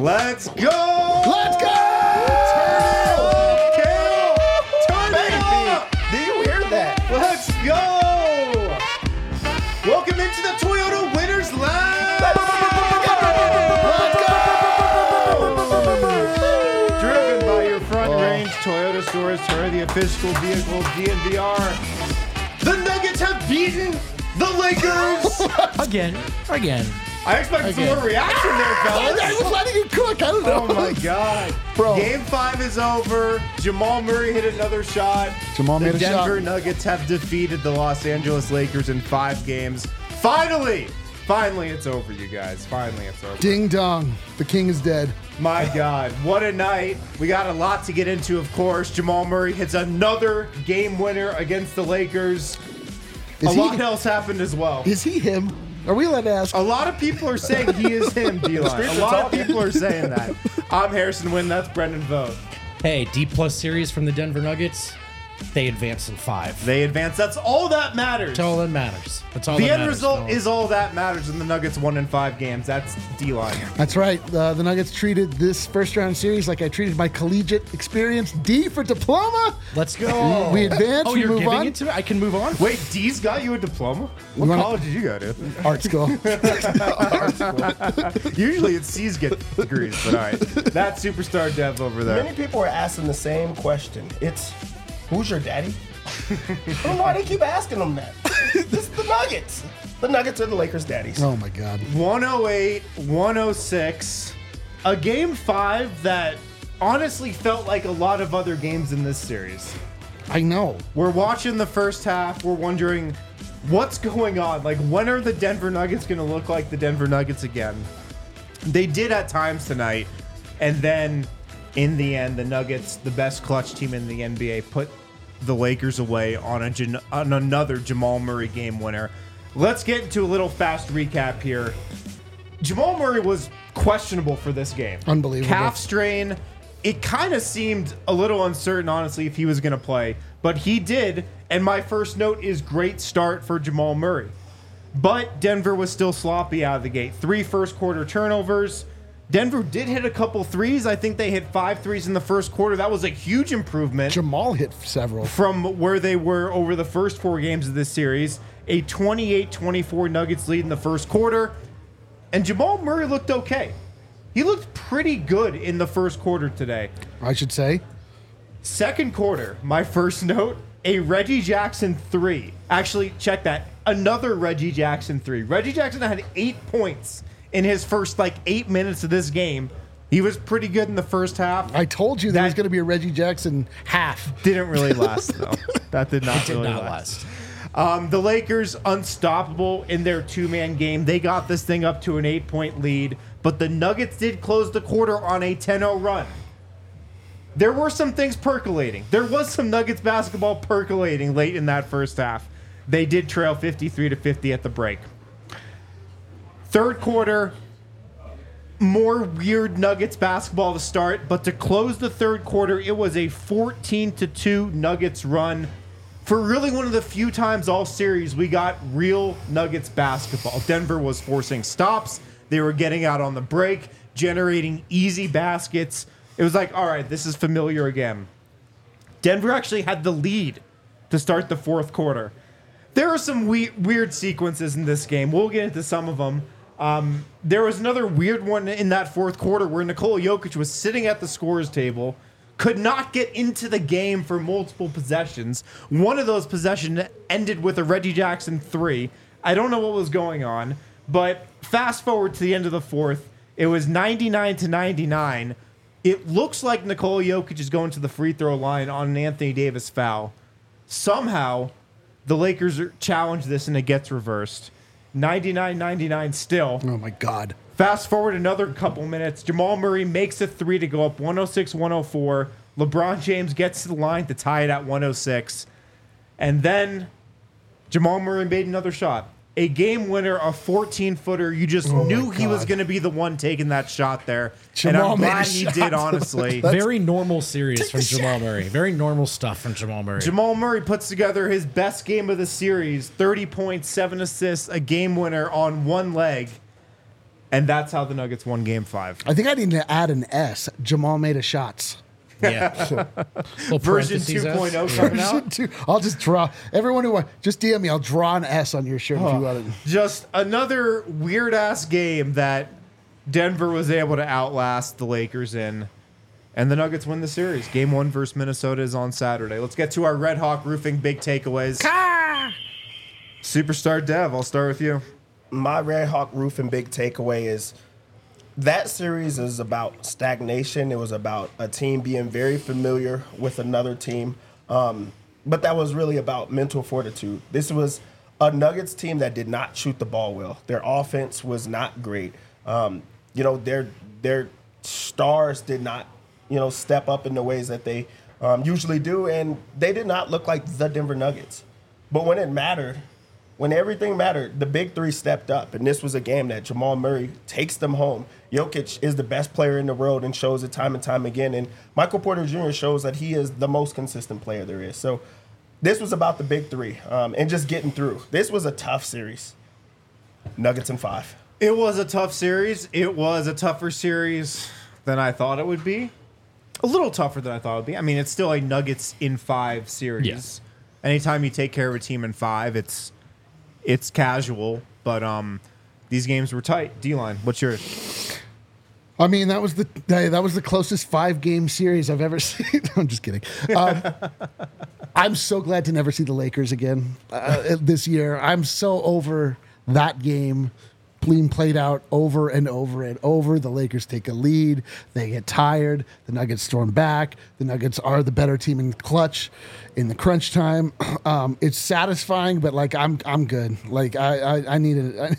Let's go! Let's go! Turn it up, Kale! Turn it up! Do you hear that? Let's go! Welcome into the Toyota Winners Lounge! Driven by your front range Toyota stores, Toyota, the official vehicle DNVR. The Nuggets have beaten the Lakers! Again. I expected some more reaction there, fellas. I was letting you cook. I don't know. Oh my God. Bro. Game 5 is over. Jamal Murray hit another shot. Jamal made a The Denver shot. Nuggets have defeated the Los Angeles Lakers in 5 games. Finally, it's over, you guys. Finally, it's over. Ding dong. The king is dead. My God, what a night. We got a lot to get into, of course. Jamal Murray hits another game winner against the Lakers. A lot else happened as well. Is he him? Are we allowed to ask? A lot of people are saying he is him, D-Line. A lot of people are saying that. I'm Harrison Wynn. That's Brendan Vogt. Hey, D+ series from the Denver Nuggets. They advance in 5. They advance. That's all that matters. That's all that matters. That's all The that end matters, result fellas. is all that matters, and the Nuggets won in 5 games. That's D-Line. That's right. The Nuggets treated this first round series like I treated my collegiate experience. D for diploma. Let's go. We advance. Oh, we you're move giving on. it to me? I can move on? Wait, D's got you a diploma? What wanna- college did you go to? Art school. Usually it's C's get degrees, but all right. That superstar dev over there. Many people are asking the same question. It's, who's your daddy? I don't know why they keep asking them that. This is the Nuggets. The Nuggets are the Lakers' daddies. Oh my God. 108, 106. A game 5 that honestly felt like a lot of other games in this series. I know. We're watching the first half. We're wondering what's going on. Like, when are the Denver Nuggets going to look like the Denver Nuggets again? They did at times tonight. And then, in the end, the Nuggets, the best clutch team in the NBA, put the Lakers away on another Jamal Murray game winner. Let's get into a little fast recap here. Jamal Murray was questionable for this game. Unbelievable. Calf strain. It kind of seemed a little uncertain, honestly, if he was going to play. But he did. And my first note is great start for Jamal Murray. But Denver was still sloppy out of the gate. 3 first quarter turnovers. Denver did hit a couple threes. I think they hit 5 threes in the first quarter. That was a huge improvement Jamal hit several. from where they were over the first 4 games of this series. A 28-24 Nuggets lead in the first quarter. And Jamal Murray looked okay. He looked pretty good in the first quarter today. I should say. Second quarter, my first note, a Reggie Jackson 3. Actually, check that. Another Reggie Jackson 3. Reggie Jackson had 8 points in his first 8 minutes of this game. He was pretty good in the first half. I told you there That- was going to be a Reggie Jackson half. Didn't really last, though. That did not Did really not last. last. The Lakers, unstoppable in their 2-man game. They got this thing up to an 8-point lead, but the Nuggets did close the quarter on a 10-0 run. There were some things percolating. There was some Nuggets basketball percolating late in that first half. They did trail 53-50 at the break. Third quarter, more weird Nuggets basketball to start, but to close the third quarter, it was a 14-2 Nuggets run. For really one of the few times all series we got real Nuggets basketball. Denver was forcing stops. They were getting out on the break, generating easy baskets. It was like, all right, this is familiar again. Denver actually had the lead to start the fourth quarter. There are some weird sequences in this game. We'll get into some of them. There was another weird one in that fourth quarter where Nikola Jokic was sitting at the scorer's table, could not get into the game for multiple possessions. One of those possessions ended with a Reggie Jackson 3. I don't know what was going on, but fast forward to the end of the fourth, it was 99-99. It looks like Nikola Jokic is going to the free throw line on an Anthony Davis foul. Somehow, the Lakers challenge this and it gets reversed. 99-99 still. Oh my God. Fast forward another couple minutes. Jamal Murray makes a 3 to go up 106-104. LeBron James gets to the line to tie it at 106. And then Jamal Murray made another shot. A game winner, a 14-footer. You just knew he was going to be the one taking that shot there. Jamal and made I'm a glad he shot. did, honestly. Very normal series from Jamal Murray. Very normal stuff from Jamal Murray. Jamal Murray puts together his best game of the series. 30 points, 7 assists, a game winner on one leg. And that's how the Nuggets won Game 5. I think I need to add an S. Jamal made a shots. Yeah. Little Version parentheses 2.0 S. coming out. I'll just draw. Everyone who just DM me, I'll draw an S on your shirt if you want it. Just another weird-ass game that Denver was able to outlast the Lakers in. And the Nuggets win the series. Game 1 versus Minnesota is on Saturday. Let's get to our Red Hawk Roofing big takeaways. Superstar Dev, I'll start with you. My Red Hawk Roofing big takeaway is that series is about stagnation. It was about a team being very familiar with another team. But that was really about mental fortitude. This was a Nuggets team that did not shoot the ball well. Their offense was not great. Their stars did not, step up in the ways that they usually do. And they did not look like the Denver Nuggets. But when it mattered, when everything mattered, the big three stepped up, and this was a game that Jamal Murray takes them home. Jokic is the best player in the world and shows it time and time again, and Michael Porter Jr. shows that he is the most consistent player there is. So this was about the big three and just getting through. This was a tough series. Nuggets in 5. It was a tough series. It was a tougher series than I thought it would be. A little tougher than I thought it would be. I mean, it's still a Nuggets in 5 series. Yes. Anytime you take care of a team in 5, it's casual, but these games were tight. D-line, what's yours? I mean, that was the closest 5-game series I've ever seen. I'm just kidding. I'm so glad to never see the Lakers again this year. I'm so over that game being played out over and over and over. The Lakers take a lead. They get tired. The Nuggets storm back. The Nuggets are the better team in the clutch, in the crunch time. It's satisfying, but like I'm good. Like I need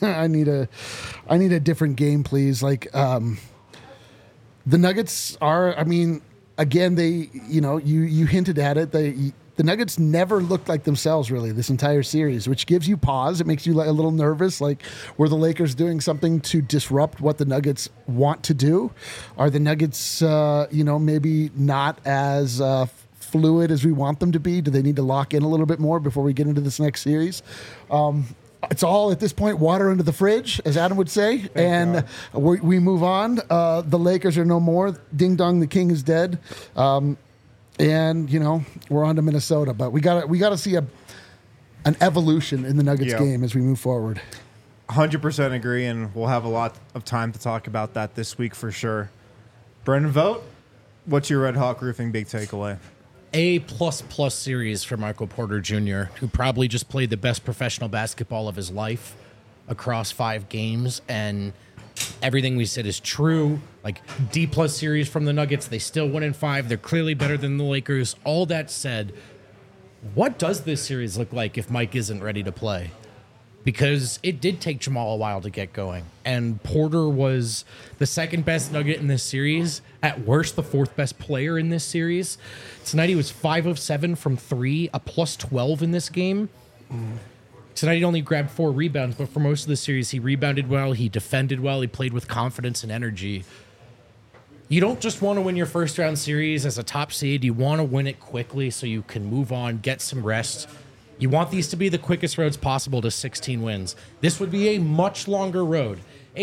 a different game, please. Like the Nuggets are. I mean, again, you hinted at it. The Nuggets never looked like themselves, really, this entire series, which gives you pause. It makes you a little nervous. Like, were the Lakers doing something to disrupt what the Nuggets want to do? Are the Nuggets, maybe not as fluid as we want them to be? Do they need to lock in a little bit more before we get into this next series? It's all, at this point, water under the fridge, as Adam would say. And we move on. The Lakers are no more. Ding dong, the king is dead. And we're on to Minnesota, but we got to see an evolution in the Nuggets game as we move forward. 100% agree, and we'll have a lot of time to talk about that this week for sure. Brendan Vogt, what's your Red Hawk Roofing big takeaway? A++ series for Michael Porter Jr., who probably just played the best professional basketball of his life across 5 games, and everything we said is true. Like, D+ series from the Nuggets, they still win in 5. They're clearly better than the Lakers. All that said, what does this series look like if Mike isn't ready to play? Because it did take Jamal a while to get going. And Porter was the second best Nugget in this series. At worst, the 4th best player in this series. Tonight he was 5 of 7 from 3, a +12 in this game. Tonight he only grabbed 4 rebounds, but for most of the series he rebounded well, he defended well, he played with confidence and energy. You don't just want to win your first round series as a top seed. You want to win it quickly so you can move on, get some rest. You want these to be the quickest roads possible to 16 wins. This would be a much longer road.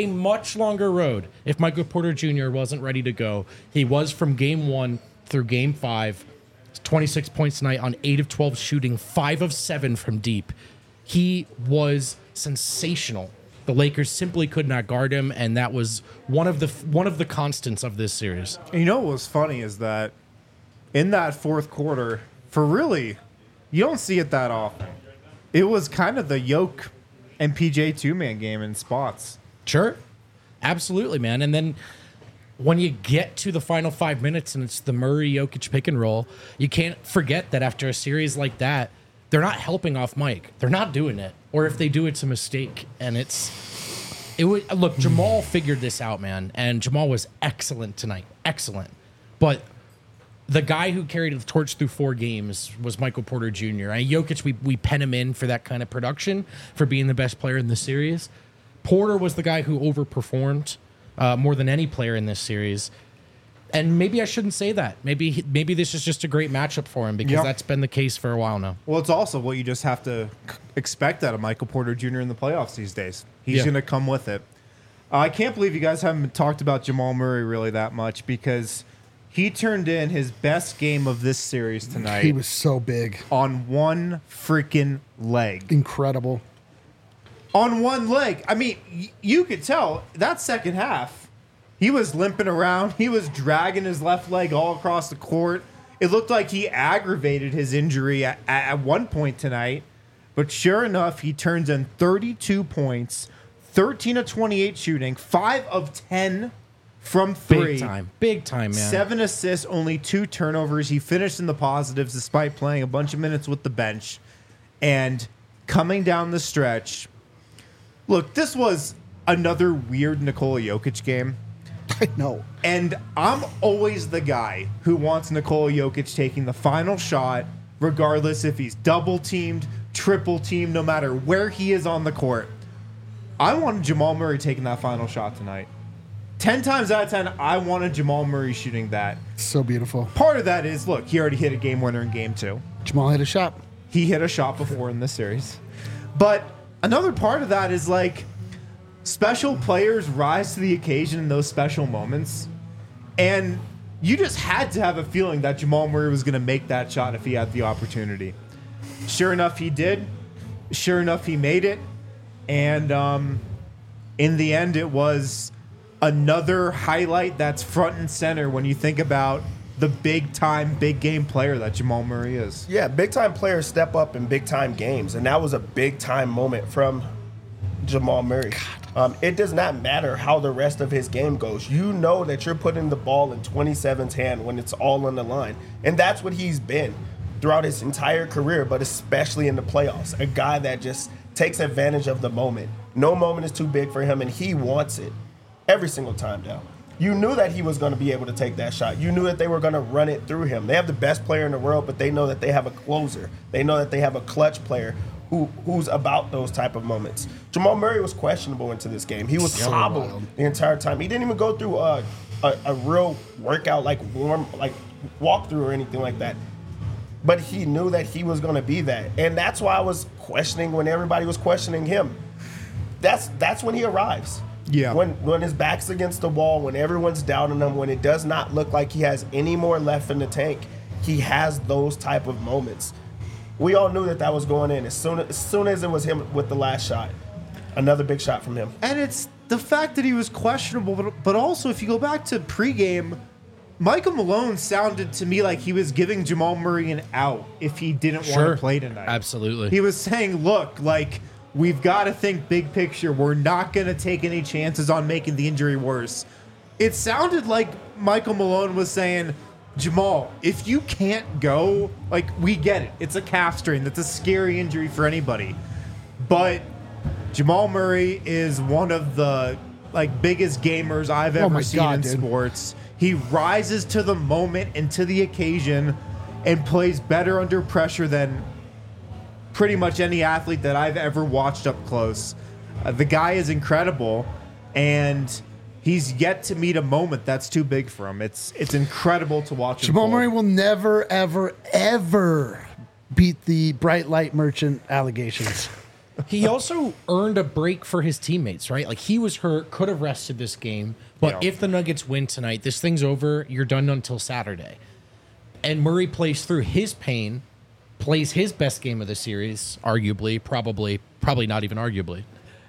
If Michael Porter Jr. wasn't ready to go. He was from game 1 through game 5. 26 points tonight on 8 of 12 shooting, 5 of 7 from deep. He was sensational. The Lakers simply could not guard him, and that was one of the constants of this series. And what was funny is that in that 4th quarter, you don't see it that often. It was kind of the Yoke and PJ 2-man game in spots. Sure. Absolutely, man. And then when you get to the final 5 minutes and it's the Murray-Jokic pick and roll, you can't forget that after a series like that, they're not helping off Mike. They're not doing it. Or if they do, it's a mistake. And look, Jamal figured this out, man. And Jamal was excellent tonight. Excellent. But the guy who carried the torch through 4 games was Michael Porter Jr. Jokic, we pen him in for that kind of production, for being the best player in the series. Porter was the guy who overperformed more than any player in this series. And maybe I shouldn't say that. Maybe this is just a great matchup for him because that's been the case for a while now. Well, it's also what you just have to expect out of Michael Porter Jr. in the playoffs these days. He's going to come with it. I can't believe you guys haven't talked about Jamal Murray really that much because he turned in his best game of this series tonight. He was so big. On one freaking leg. Incredible. On one leg. I mean, you could tell that second half, he was limping around. He was dragging his left leg all across the court. It looked like he aggravated his injury at one point tonight. But sure enough, he turns in 32 points, 13 of 28 shooting, 5 of 10 from 3. Big time, man. 7 assists, only 2 turnovers. He finished in the positives despite playing a bunch of minutes with the bench. And coming down the stretch, look, this was another weird Nikola Jokic game. I know. And I'm always the guy who wants Nikola Jokic taking the final shot, regardless if he's double teamed, triple teamed, no matter where he is on the court. I wanted Jamal Murray taking that final shot tonight. 10 times out of 10, I wanted Jamal Murray shooting that. So beautiful. Part of that is, look, he already hit a game winner in game 2. Jamal hit a shot. He hit a shot before in this series. But another part of that is like special players rise to the occasion in those special moments. And you just had to have a feeling that Jamal Murray was going to make that shot if he had the opportunity. Sure enough, he did. Sure enough, he made it. And in the end, it was another highlight that's front and center when you think about the big-time, big-game player that Jamal Murray is. Yeah, big-time players step up in big-time games, and that was a big-time moment from Jamal Murray. It does not matter how the rest of his game goes. You know that you're putting the ball in 27's hand when it's all on the line, and that's what he's been throughout his entire career, but especially in the playoffs. A guy that just takes advantage of the moment. No moment is too big for him, and he wants it every single time now. You knew that he was going to be able to take that shot. You knew that they were going to run it through him. They have the best player in the world, but they know that they have a closer. They know that they have a clutch player who's about those type of moments. Jamal Murray was questionable into this game. He was hobbled the entire time. He didn't even go through a real workout, like walkthrough or anything like that. But he knew that he was going to be that. And that's why I was questioning when everybody was questioning him. That's when he arrives. Yeah. When his back's against the wall, when everyone's doubting him, when it does not look like he has any more left in the tank, he has those type of moments. We all knew that was going in as soon as it was him with the last shot. Another big shot from him. And it's the fact that he was questionable, but also if you go back to pregame, Michael Malone sounded to me like he was giving Jamal Murray an out if he didn't want to play tonight. Absolutely. He was saying, look, like, we've got to think big picture. We're not going to take any chances on making the injury worse. It sounded like Michael Malone was saying, Jamal, if you can't go, like, we get it. It's a calf strain. That's a scary injury for anybody. But Jamal Murray is one of the, like, biggest gamers I've ever seen in sports. He rises to the moment and to the occasion and plays better under pressure than pretty much any athlete that I've ever watched up close. The guy is incredible, and he's yet to meet a moment that's too big for him. It's incredible to watch him. Jamal Murray will never, ever, ever beat the bright light merchant allegations. He also earned a break for his teammates, right? Like, he was hurt, could have rested this game. But if the Nuggets win tonight, this thing's over. You're done until Saturday. And Murray plays through his pain, plays his best game of the series, arguably, probably not even arguably.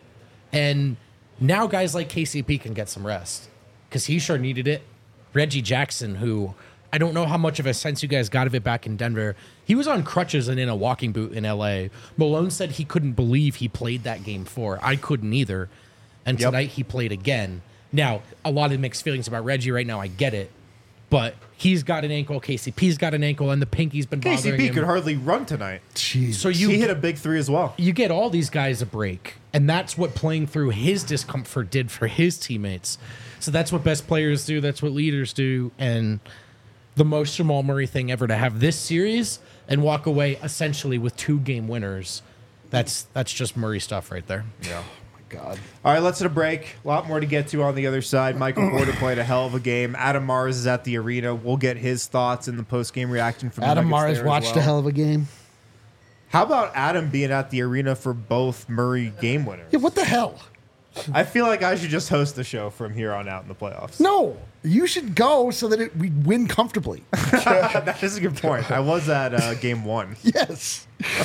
And now guys like KCP can get some rest because he sure needed it. Reggie Jackson, who I don't know how much of a sense you guys got of it back in Denver. He was on crutches and in a walking boot in LA. Malone said he couldn't believe he played that game 4. I couldn't either. And tonight he played again. Now, a lot of mixed feelings about Reggie right now. I get it. But he's got an ankle. KCP's got an ankle, and the pinky's been bothering him. KCP could hardly run tonight. Jeez. So he hit a big 3 as well. You get all these guys a break, and that's what playing through his discomfort did for his teammates. So that's what best players do. That's what leaders do. And the most Jamal Murray thing ever to have this series and walk away essentially with 2 game winners. That's just Murray stuff right there. Yeah. God. All right, let's hit a break. A lot more to get to on the other side. Michael Porter played a hell of a game. Adam Mars is at the arena. We'll get his thoughts in the post-game reaction from Adam the Nuggets Mars watched a hell of a game. How about Adam being at the arena for both Murray game winners? Yeah, what the hell? I feel like I should just host the show from here on out in the playoffs. No, you should go so that we win comfortably. That is a good point. I was at game 1. Yes.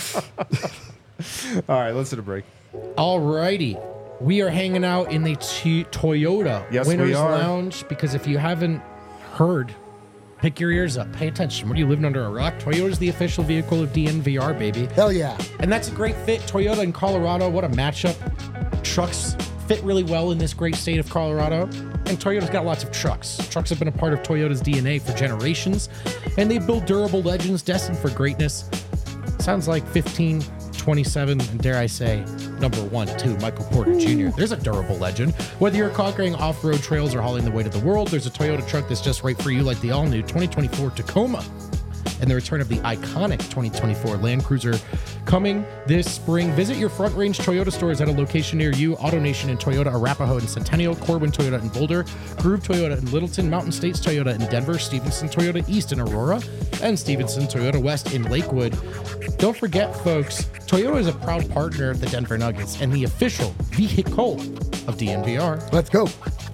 All right, let's hit a break. Alrighty. We are hanging out in the Toyota Yes, we Winners are. Lounge because if you haven't heard, pick your ears up, pay attention. What are you living under a rock? Toyota's the official vehicle of DNVR, baby. Hell yeah. And that's a great fit. Toyota in Colorado, what a matchup. Trucks fit really well in this great state of Colorado. And Toyota's got lots of trucks. Trucks have been a part of Toyota's DNA for generations. And they build durable legends destined for greatness. Sounds like 15, 27, and dare I say, number 1, 2, Michael Porter Jr. There's a durable legend. Whether you're conquering off-road trails or hauling the weight of the world, there's a Toyota truck that's just right for you, like the all-new 2024 Tacoma. And the return of the iconic 2024 Land Cruiser coming this spring. Visit your Front Range Toyota stores at a location near you. AutoNation in Toyota, Arapahoe and Centennial, Corwin Toyota in Boulder, Groove Toyota in Littleton, Mountain States Toyota in Denver, Stevenson Toyota East in Aurora, and Stevenson Toyota West in Lakewood. Don't forget, folks, Toyota is a proud partner of the Denver Nuggets and the official vehicle of DNVR. Let's go.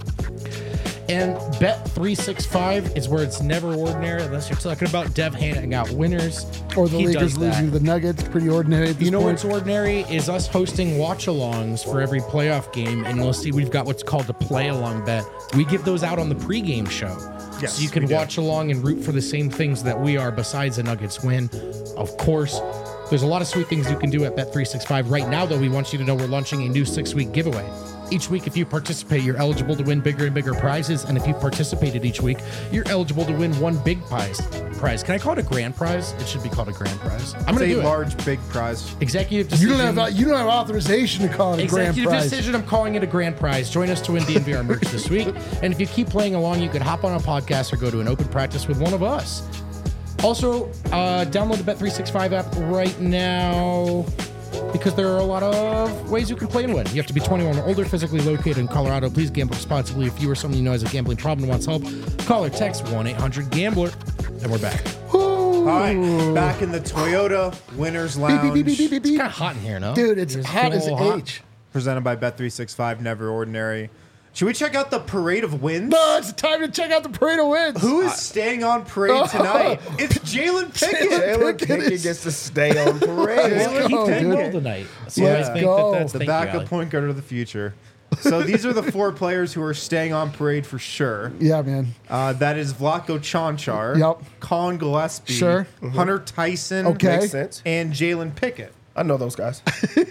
And Bet365 is where it's never ordinary unless you're talking about Dev handing out winners. Or the He Lakers does that. losing to the Nuggets. Pretty ordinary at this You know point. what's ordinary is us hosting watch-alongs for every playoff game, and you'll see we've got what's called a play-along bet. We give those out on the pregame show. Yes, So you can we do. watch along and root for the same things that we are besides the Nuggets win. Of course, there's a lot of sweet things you can do at Bet365. Right now, though, we want you to know we're launching a new 6-week giveaway. Each week, if you participate, you're eligible to win bigger and bigger prizes. And if you participated each week, you're eligible to win one big prize. Can I call it a grand prize? It should be called a grand prize. I'm It's going to a do it. large, big prize. Executive You decision. don't have authorization to call it a grand Executive prize. decision. I'm calling it a grand prize. Join us to win DNVR merch this week. And if you keep playing along, you could hop on a podcast or go to an open practice with one of us. Also, download the Bet365 app right now because there are a lot of ways you can play and win. You have to be 21 or older, physically located in Colorado. Please gamble responsibly. If you or someone you know has a gambling problem and wants help, call or text 1-800-GAMBLER. And we're back. All right, back in the Toyota Winners Lounge, Beep, beep, beep, beep, It's being kind of hot in here, no? Dude, it's It's hot a as little hot. H. presented by Bet365, Never Ordinary. Should we check out the parade of wins? No, it's time to check out the parade of wins. Who is staying on parade tonight? It's Jalen Pickett. Jalen Pickett Pickett is- gets to stay on parade. Let's go, He played dude. well tonight. So Let's I think go. that's The thank you, backup Allie. point guard of the future. So these are the 4 players who are staying on parade for sure. Yeah, man. That is Vlatko Čančar, Yep. Colin Gillespie, Sure. Hunter Tyson, Okay. Makes sense. and Jalen Pickett. I know those guys.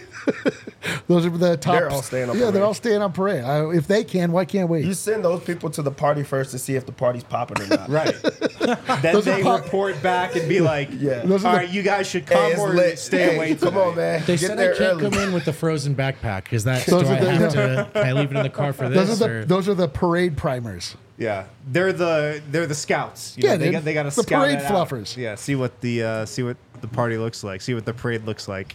Those are the top. They're all staying on Yeah, they're parade. all staying on parade. If they can, why can't we? You send those people to the party first to see if the party's popping or not. Right. Then Those are they pop- report back and be like, Yeah. Those all are right, you guys should Hey, come it's or lit. stay Hey, away come tonight. on, man. They Get said there I can't early. come in with the frozen backpack. Is that Those do are I the- have to? Can I leave it in the car for those this? are or? those are the parade primers. Yeah, they're the scouts. You Yeah, know, they dude. got to The scout parade it out. fluffers. Yeah, see what the party looks like. See what the parade looks like.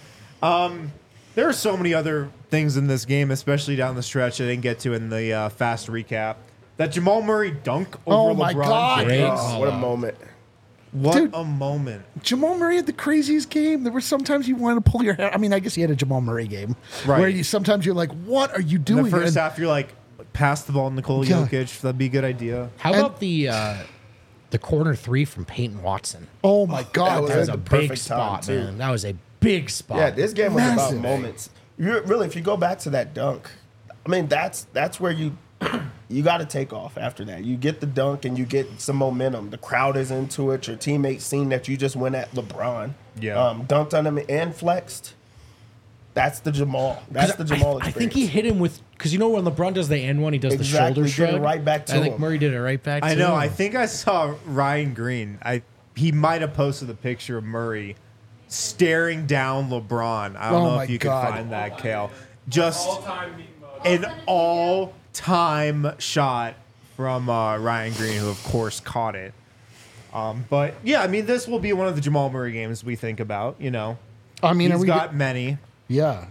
There are so many other things in this game, especially down the stretch I didn't get to in the fast recap. That Jamal Murray dunk over Oh my LeBron God. James. Oh, what a moment. What Dude. a moment. Jamal Murray had the craziest game. There were sometimes you wanted to pull your hair. I mean, I guess he had a Jamal Murray game, Right. where you sometimes you're like, "What are you In doing?" the first And- half, you're like, pass the ball to Nikola Yeah. Jokic. That'd be a good idea. How about the corner 3 from Peyton Watson? Oh my God, was That was at a the big perfect time, spot, too. man. That was a big spot. Yeah, this game was Massive. about moments. Really, if you go back to that dunk, I mean, that's where you got to take off after that. You get the dunk and you get some momentum. The crowd is into it. Your teammates seen that you just went at LeBron. Yeah. Dunked on him and flexed. That's the Jamal. That's the Jamal I experience. think he hit him with because you know when LeBron does the end one, he does Exactly, the did shoulder it shrug. right back to I think him. Murray did it right back. I to know. him. I think I saw Ryan Green. He might have posted the picture of Murray staring down LeBron. I don't Oh know my if you God. can find that, Kale. Just an all-time shot from Ryan Green, who of course caught it. But yeah, I mean, this will be one of the Jamal Murray games we think about. You know, I mean, are he's we got many. yeah.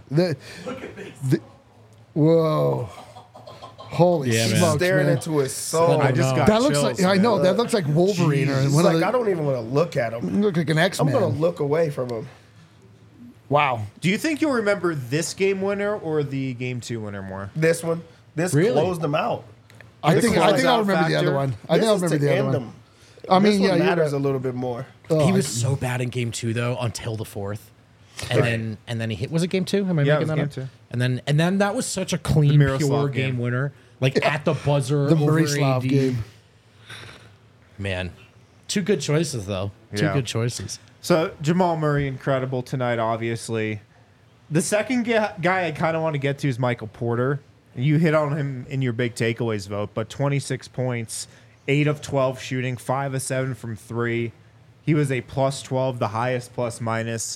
Whoa. Holy Yeah, man. smokes, staring man. into his soul. I just got That looks chills, like I know man. that looks like Wolverine or It's one like of the, I don't even want to look at him. look like an I'm X-Man. gonna look away from him. Wow. Do you think you'll remember this game winner or the game 2 winner more? This one, this Really? closed them out. I This think was I'll out remember the factor. other one. I think This I'll is remember to the other end one. them. I mean, This yeah, one you're matters right. a little bit more. Oh, He was so bad in game 2 though until the 4th. And then he hit. Was it game 2? Am I Yeah, making it was that game up? 2. And then that was such a clean, The Miroslav pure game. game winner. Like at the buzzer, the over Marislav AD. game. Man, two good choices though. Two Yeah. good choices. So Jamal Murray, incredible tonight, obviously. The second guy I kind of want to get to is Michael Porter. You hit on him in your big takeaways vote, but 26 points, 8 of 12 shooting, 5 of 7 from 3. He was a plus 12, the highest plus minus.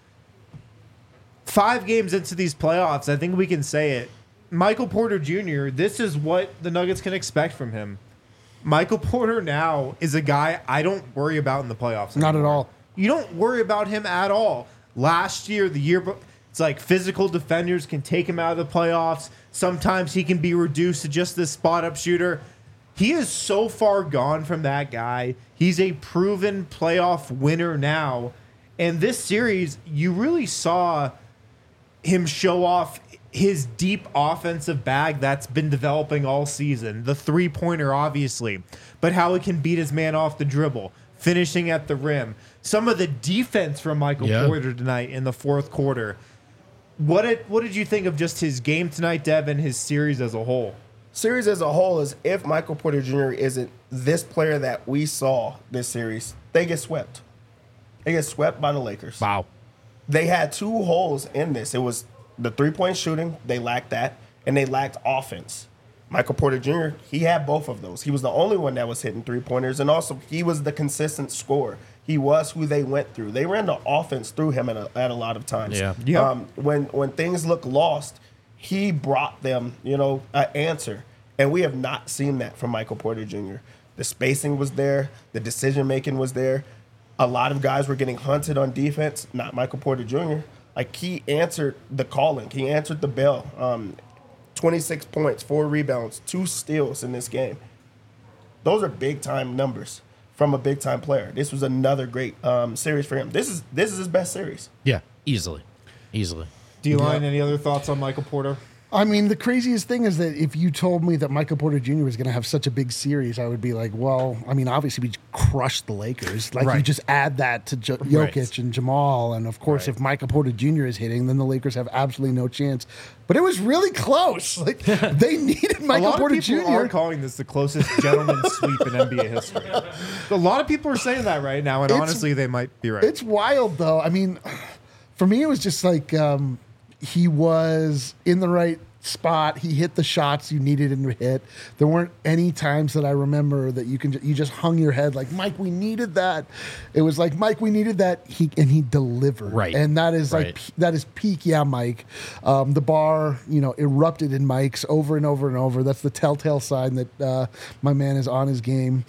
5 games into these playoffs, I think we can say it. Michael Porter Jr., this is what the Nuggets can expect from him. Michael Porter now is a guy I don't worry about in the playoffs. Not at anymore. all. You don't worry about him at all. Last year, the year, it's like physical defenders can take him out of the playoffs. Sometimes he can be reduced to just this spot up shooter. He is so far gone from that guy. He's a proven playoff winner now. And this series, you really saw him show off his deep offensive bag that's been developing all season. The three-pointer, obviously, but how he can beat his man off the dribble, finishing at the rim. Some of the defense from Michael Porter tonight in the fourth quarter. What did you think of just his game tonight, Dev, and his series as a whole? Series as a whole is if Michael Porter Jr. isn't this player that we saw this series, they get swept. They get swept by the Lakers. Wow. They had 2 holes in this. It was the three-point shooting. They lacked that, and they lacked offense. Michael Porter Jr., he had both of those. He was the only one that was hitting three-pointers, and also he was the consistent scorer. He was who they went through. They ran the offense through him at a lot of times. Yeah. Yep. When things look lost, he brought them, an answer. And we have not seen that from Michael Porter Jr. The spacing was there. The decision-making was there. A lot of guys were getting hunted on defense, not Michael Porter Jr. Like, he answered the calling. He answered the bell. 26 points, 4 rebounds, 2 steals in this game. Those are big-time numbers from a big-time player. This was another great series for him. This is his best series. Yeah, easily. D-Line, any other thoughts on Michael Porter? I mean, the craziest thing is that if you told me that Michael Porter Jr. was going to have such a big series, I would be like, well, I mean, obviously we crushed the Lakers. Like, you Right. just add that to Jokic Right. and Jamal. And, of course, if Michael Porter Jr. is hitting, then the Lakers have absolutely no chance. But it was really close. Like, they needed Michael a lot Porter of people Jr. are calling this the closest gentleman's sweep in NBA history. A lot of people are saying that right now, and It's- honestly, they might be right. It's wild, though. I mean, for me, it was just like he was in the right spot. He hit the shots you needed him to hit. There weren't any times that I remember that you just hung your head like, Mike, we needed that. It was like, Mike, we needed that. He delivered. Right. And that is Right. that is peak. Yeah, Mike. The bar, erupted in Mike's over and over and over. That's the telltale sign that my man is on his game.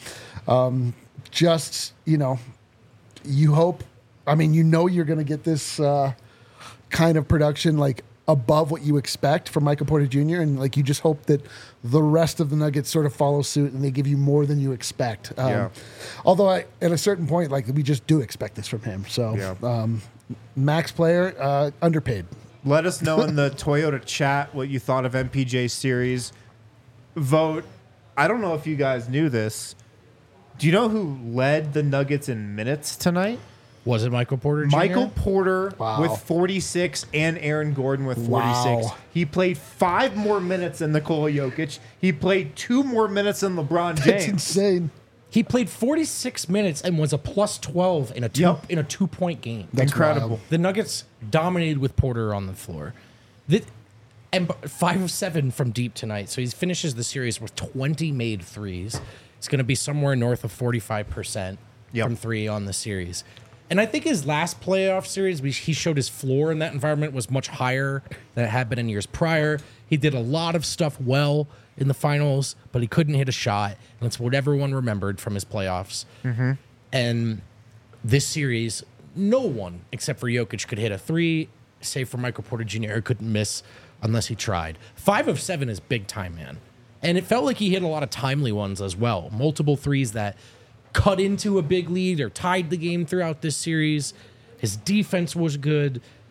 You hope. I mean, you're going to get this kind of production like above what you expect from Michael Porter Jr. And like you just hope that the rest of the Nuggets sort of follow suit and they give you more than you expect. Yeah. Although at a certain point, like we just do expect this from him. So Yeah. max player, underpaid. Let us know in the Toyota chat what you thought of MPJ series. Vote. I don't know if you guys knew this. Do you know who led the Nuggets in minutes tonight? Was it Michael Porter Jr.? Michael Porter Wow. with 46 and Aaron Gordon with 46. Wow. He played 5 more minutes than Nikola Jokic. He played 2 more minutes than LeBron It's James. insane. He played 46 minutes and was a plus 12 in a Yep. 2-point game. That's Incredible. wild. The Nuggets dominated with Porter on the floor. And 5 of 7 from deep tonight. So he finishes the series with 20 made threes. It's going to be somewhere north of 45% Yep. from 3 on the series. And I think his last playoff series, he showed his floor in that environment was much higher than it had been in years prior. He did a lot of stuff well in the finals, but he couldn't hit a shot. And that's what everyone remembered from his playoffs. And this series, no one except for Jokic could hit a 3, save for Michael Porter Jr., who couldn't miss unless he tried. 5 of 7 is big time, man. And it felt like he hit a lot of timely ones as well. Multiple threes that cut into a big lead or tied the game throughout this series. His defense was good.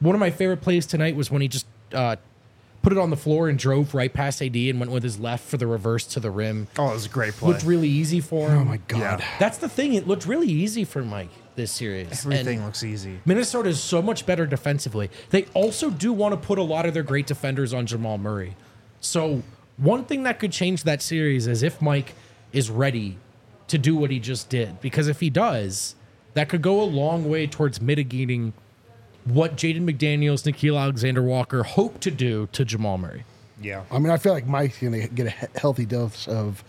One of my favorite plays tonight was when he just put it on the floor and drove right past AD and went with his left for the reverse to the rim. Oh, it was a great play. Looked really easy for him. Oh my God. Yeah. That's the thing. It looked really easy for Mike this series. Everything And looks easy. Minnesota is so much better defensively. They also do want to put a lot of their great defenders on Jamal Murray. So one thing that could change that series is if Mike is ready to do what he just did. Because if he does, that could go a long way towards mitigating what Jaden McDaniels, Nickeil Alexander-Walker hope to do to Jamal Murray. Yeah. I mean, I feel like Mike's going to get a healthy dose of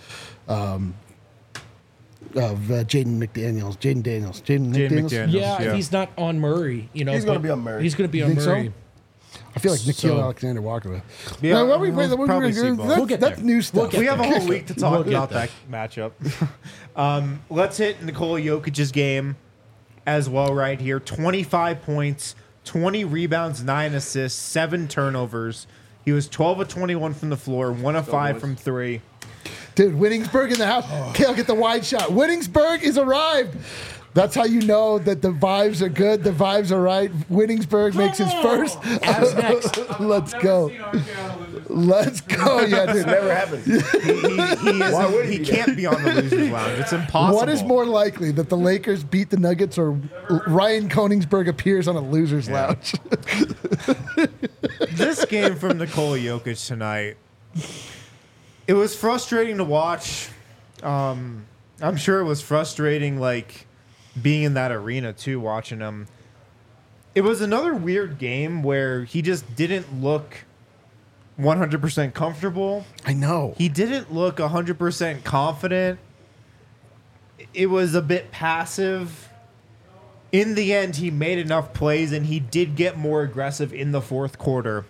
Jaden McDaniels. Jaden McDaniels. McDaniels. Yeah, Yeah. if he's not on Murray, He's gonna but be on Murray. He's going to be You on think so? Murray. I feel like Nickeil So- Alexander-Walker. Yeah, Now, what we- we'll what probably we're see gonna- both. that's, We'll get that's there. new stuff. get We have a there. whole week to talk We'll get about there. that matchup. Let's hit Nikola Jokic's game as well right here. 25 points, 20 rebounds, 9 assists, 7 turnovers. He was 12 of 21 from the floor, 1 of 5 from 3. Dude, Winningsburg in the house. Kale, get the wide shot. Winningsburg is arrived. That's how you know that the vibes are good. The vibes are right. Winningsburg makes his first. As next. Let's go. Let's go. Yeah, dude. Never happened. Why would He he? can't be on the losers lounge. It's impossible. What is more likely, that the Lakers beat the Nuggets or Ryan Koenigsberg appears on a loser's lounge? This game from Nikola Jokic tonight? It was frustrating to watch. I'm sure it was frustrating, like being in that arena too, watching him. It was another weird game where he just didn't look 100% comfortable. I know. He didn't look 100% confident. It was a bit passive. In the end, he made enough plays, and he did get more aggressive in the fourth quarter.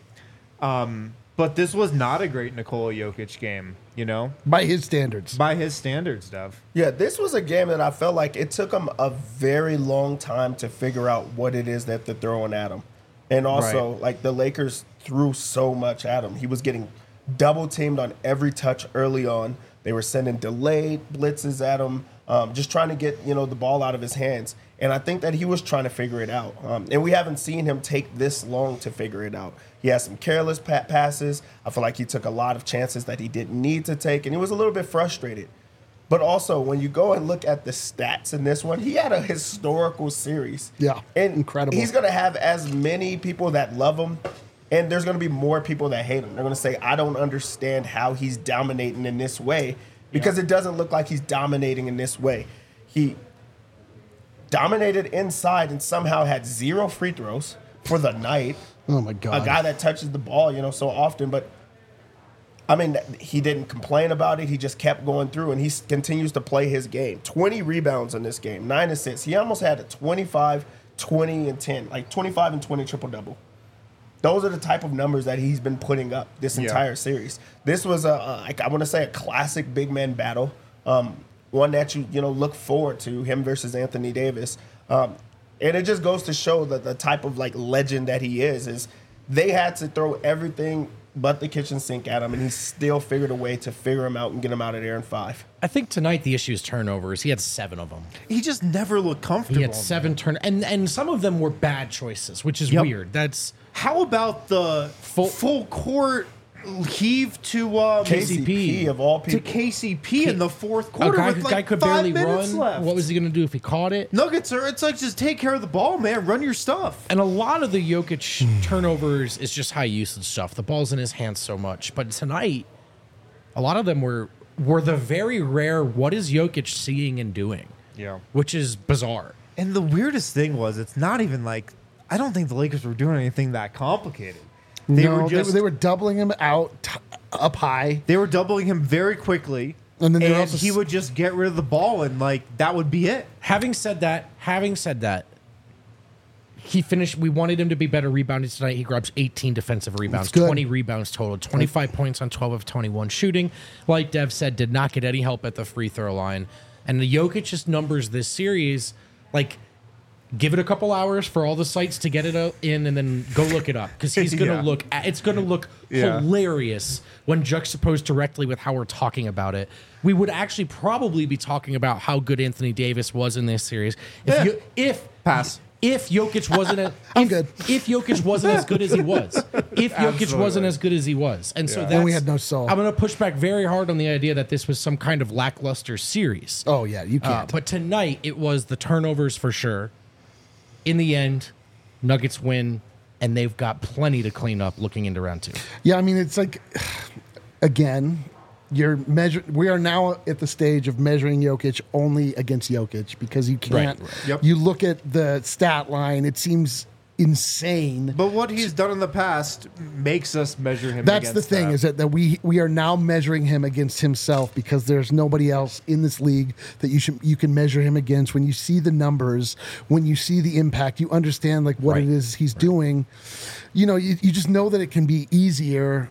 But this was not a great Nikola Jokic game, you know? By his standards. By his standards, Dev. Yeah, this was a game that I felt like it took him a very long time to figure out what it is that they're throwing at him. And also, Right. like, the Lakers threw so much at him. He was getting double teamed on every touch early on. They were sending delayed blitzes at him, just trying to get, the ball out of his hands. And I think that he was trying to figure it out. And we haven't seen him take this long to figure it out. He has some careless passes. I feel like he took a lot of chances that he didn't need to take, and he was a little bit frustrated. But also, when you go and look at the stats in this one, he had a historical series. Yeah, And incredible. He's going to have as many people that love him, and there's going to be more people that hate him. They're going to say, I don't understand how he's dominating in this way, because it doesn't look like he's dominating in this way. He dominated inside and somehow had 0 free throws for the night. Oh, my God. A guy that touches the ball, so often. But, I mean, he didn't complain about it. He just kept going through, and he continues to play his game. 20 rebounds in this game, 9 assists. He almost had a 25, 20, and 10, like 25 and 20 triple-double. Those are the type of numbers that he's been putting up this entire series. This was I want to say a classic big man battle, one that you look forward to, him versus Anthony Davis. And it just goes to show that the type of like legend that he is they had to throw everything but the kitchen sink at him, and he still figured a way to figure him out and get him out of there in 5. I think tonight the issue is turnovers. He had 7 of them. He just never looked comfortable. He had 7 and some of them were bad choices, which is Yep. weird. That's How about the full court heave to KCP of all to people. KCP in the fourth a quarter guy, with like could 5 barely minutes run. left. What was he going to do if he caught it? Nuggets are, it's like, just take care of the ball, man. Run your stuff. And a lot of the Jokic turnovers is just high usage stuff. The ball's in his hands so much. But tonight, a lot of them were the very rare, what is Jokic seeing and doing? Yeah. Which is bizarre. And the weirdest thing was, it's not even like, I don't think the Lakers were doing anything that complicated. They No, were just they were doubling him out up high. they were doubling him very quickly, And then they were and also he would just get rid of the ball, and like that would be it. Having said that, he finished. We wanted him to be better rebounding tonight. He grabs 18 defensive rebounds, That's good. 20 rebounds total, 25 points on 12 of 21 shooting. Like Dev said, did not get any help at the free throw line. And the Jokic's numbers this series, like, give it a couple hours for all the sites to get it in, and then go look it up, because he's gonna Yeah. it's gonna look Yeah. hilarious when juxtaposed directly with how we're talking about it. We would actually probably be talking about how good Anthony Davis was in this series Yeah. if Pass. if Jokic wasn't I'm good. If Jokic wasn't as good as he was. If Jokic Absolutely. wasn't as good as he was. And so Yeah. that's And we had no soul. I'm going to push back very hard on the idea that this was some kind of lackluster series. Oh yeah, you can't. But tonight it was the turnovers for sure. In the end, Nuggets win, and they've got plenty to clean up looking into round 2. Yeah, I mean, it's like, again, we are now at the stage of measuring Jokic only against Jokic because you can't. Right. Yep. You look at the stat line; it seems insane. But what he's done in the past makes us measure him. That's the against thing is that we are now measuring him against himself because there's nobody else in this league that you can measure him against. When you see the numbers, when you see the impact, you understand like what Right. it is he's doing. You know, you just know that it can be easier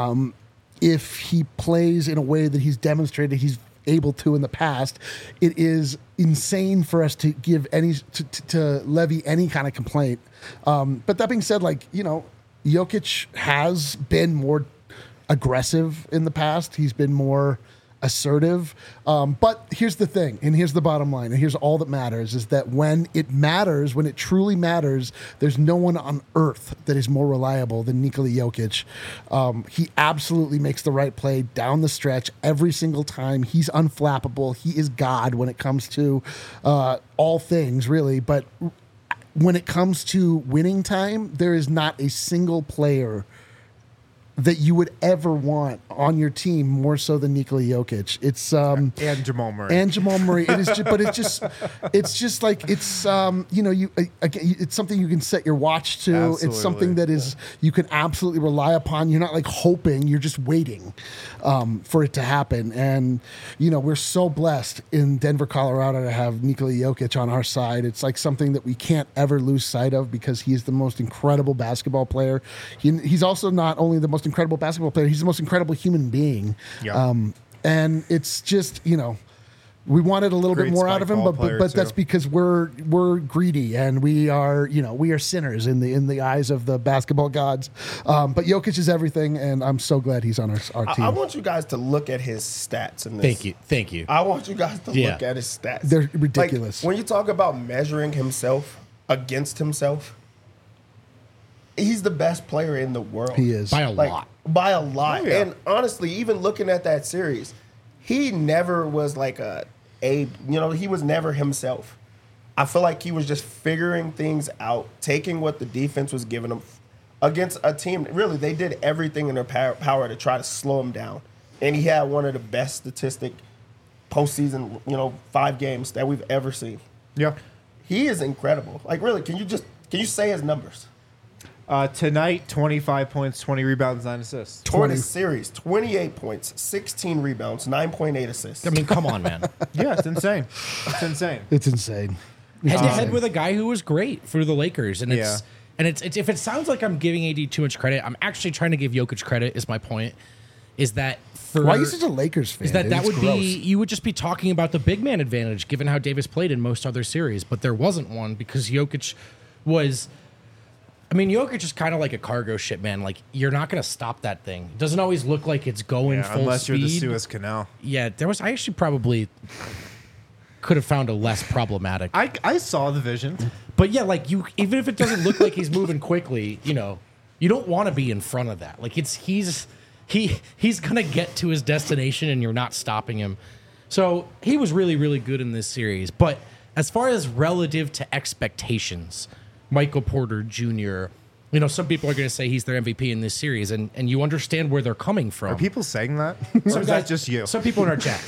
if he plays in a way that he's demonstrated he's able to in the past. It is insane for us to give to levy any kind of complaint. But that being said, like, you know, Jokic has been more aggressive in the past. He's been more assertive. But here's the thing, and here's the bottom line, and here's all that matters, is that when it matters, when it truly matters, there's no one on earth that is more reliable than Nikola Jokic. He absolutely makes the right play down the stretch every single time. He's unflappable. He is God when it comes to all things, really. But when it comes to winning time, there is not a single player that you would ever want on your team more so than Nikola Jokic. It's and Jamal Murray. and Jamal Murray. It is, but it's just like it's you know, you again, it's something you can set your watch to. Absolutely. It's something that is you can absolutely rely upon. You're not like hoping. You're just waiting for it to happen. And you know, we're so blessed in Denver, Colorado, to have Nikola Jokic on our side. It's like something that we can't ever lose sight of because he is the most incredible basketball player. He's also not only the most incredible basketball player, he's the most incredible human being. Yeah. And it's just, you know, we wanted a little Great bit more out of him, spike ball but player, that's too. because we're greedy and we are, you know, we are sinners in the eyes of the basketball gods. But Jokic is everything, and I'm so glad he's on our team. I want you guys to look at his stats in this. Thank you. I want you guys to Yeah. look at his stats. They're Like, ridiculous. when you talk about measuring himself against himself, he's the best player in the world. He is. By a Like, lot. by a lot. Oh, yeah. And honestly, even looking at that series, he never was like he was never himself. I feel like he was just figuring things out, taking what the defense was giving him against a team. Really, they did everything in their power to try to slow him down. And he had one of the best statistic postseason, 5 games that we've ever seen. Yeah. He is incredible. Like, really, can you say his numbers? Tonight, 25 points, 20 rebounds, 9 assists. For the series, 28 points, 16 rebounds, 9.8 assists. I mean, come on, man. Yeah, it's insane. It's insane. It's insane. Head to head with a guy who was great for the Lakers, and Yeah. it's if it sounds like I'm giving AD too much credit, I'm actually trying to give Jokic credit. Is my point? Is that for Why are you such a Lakers fan? Is that dude? that It's would gross. be you would just be talking about the big man advantage given how Davis played in most other series, but there wasn't one because Jokic was. I mean, Jokic is kind of like a cargo ship, man. Like, you're not going to stop that thing. It doesn't always look like it's going Yeah, full unless speed. you're the Suez Canal. Yeah, I actually probably could have found a less problematic. I saw the vision. But yeah, like even if it doesn't look like he's moving quickly, you don't want to be in front of that. Like he's gonna get to his destination and you're not stopping him. So he was really, really good in this series. But as far as relative to expectations, Michael Porter Jr., some people are going to say he's their MVP in this series, and you understand where they're coming from. Are people saying that? Or is that just you? Some people in our chat.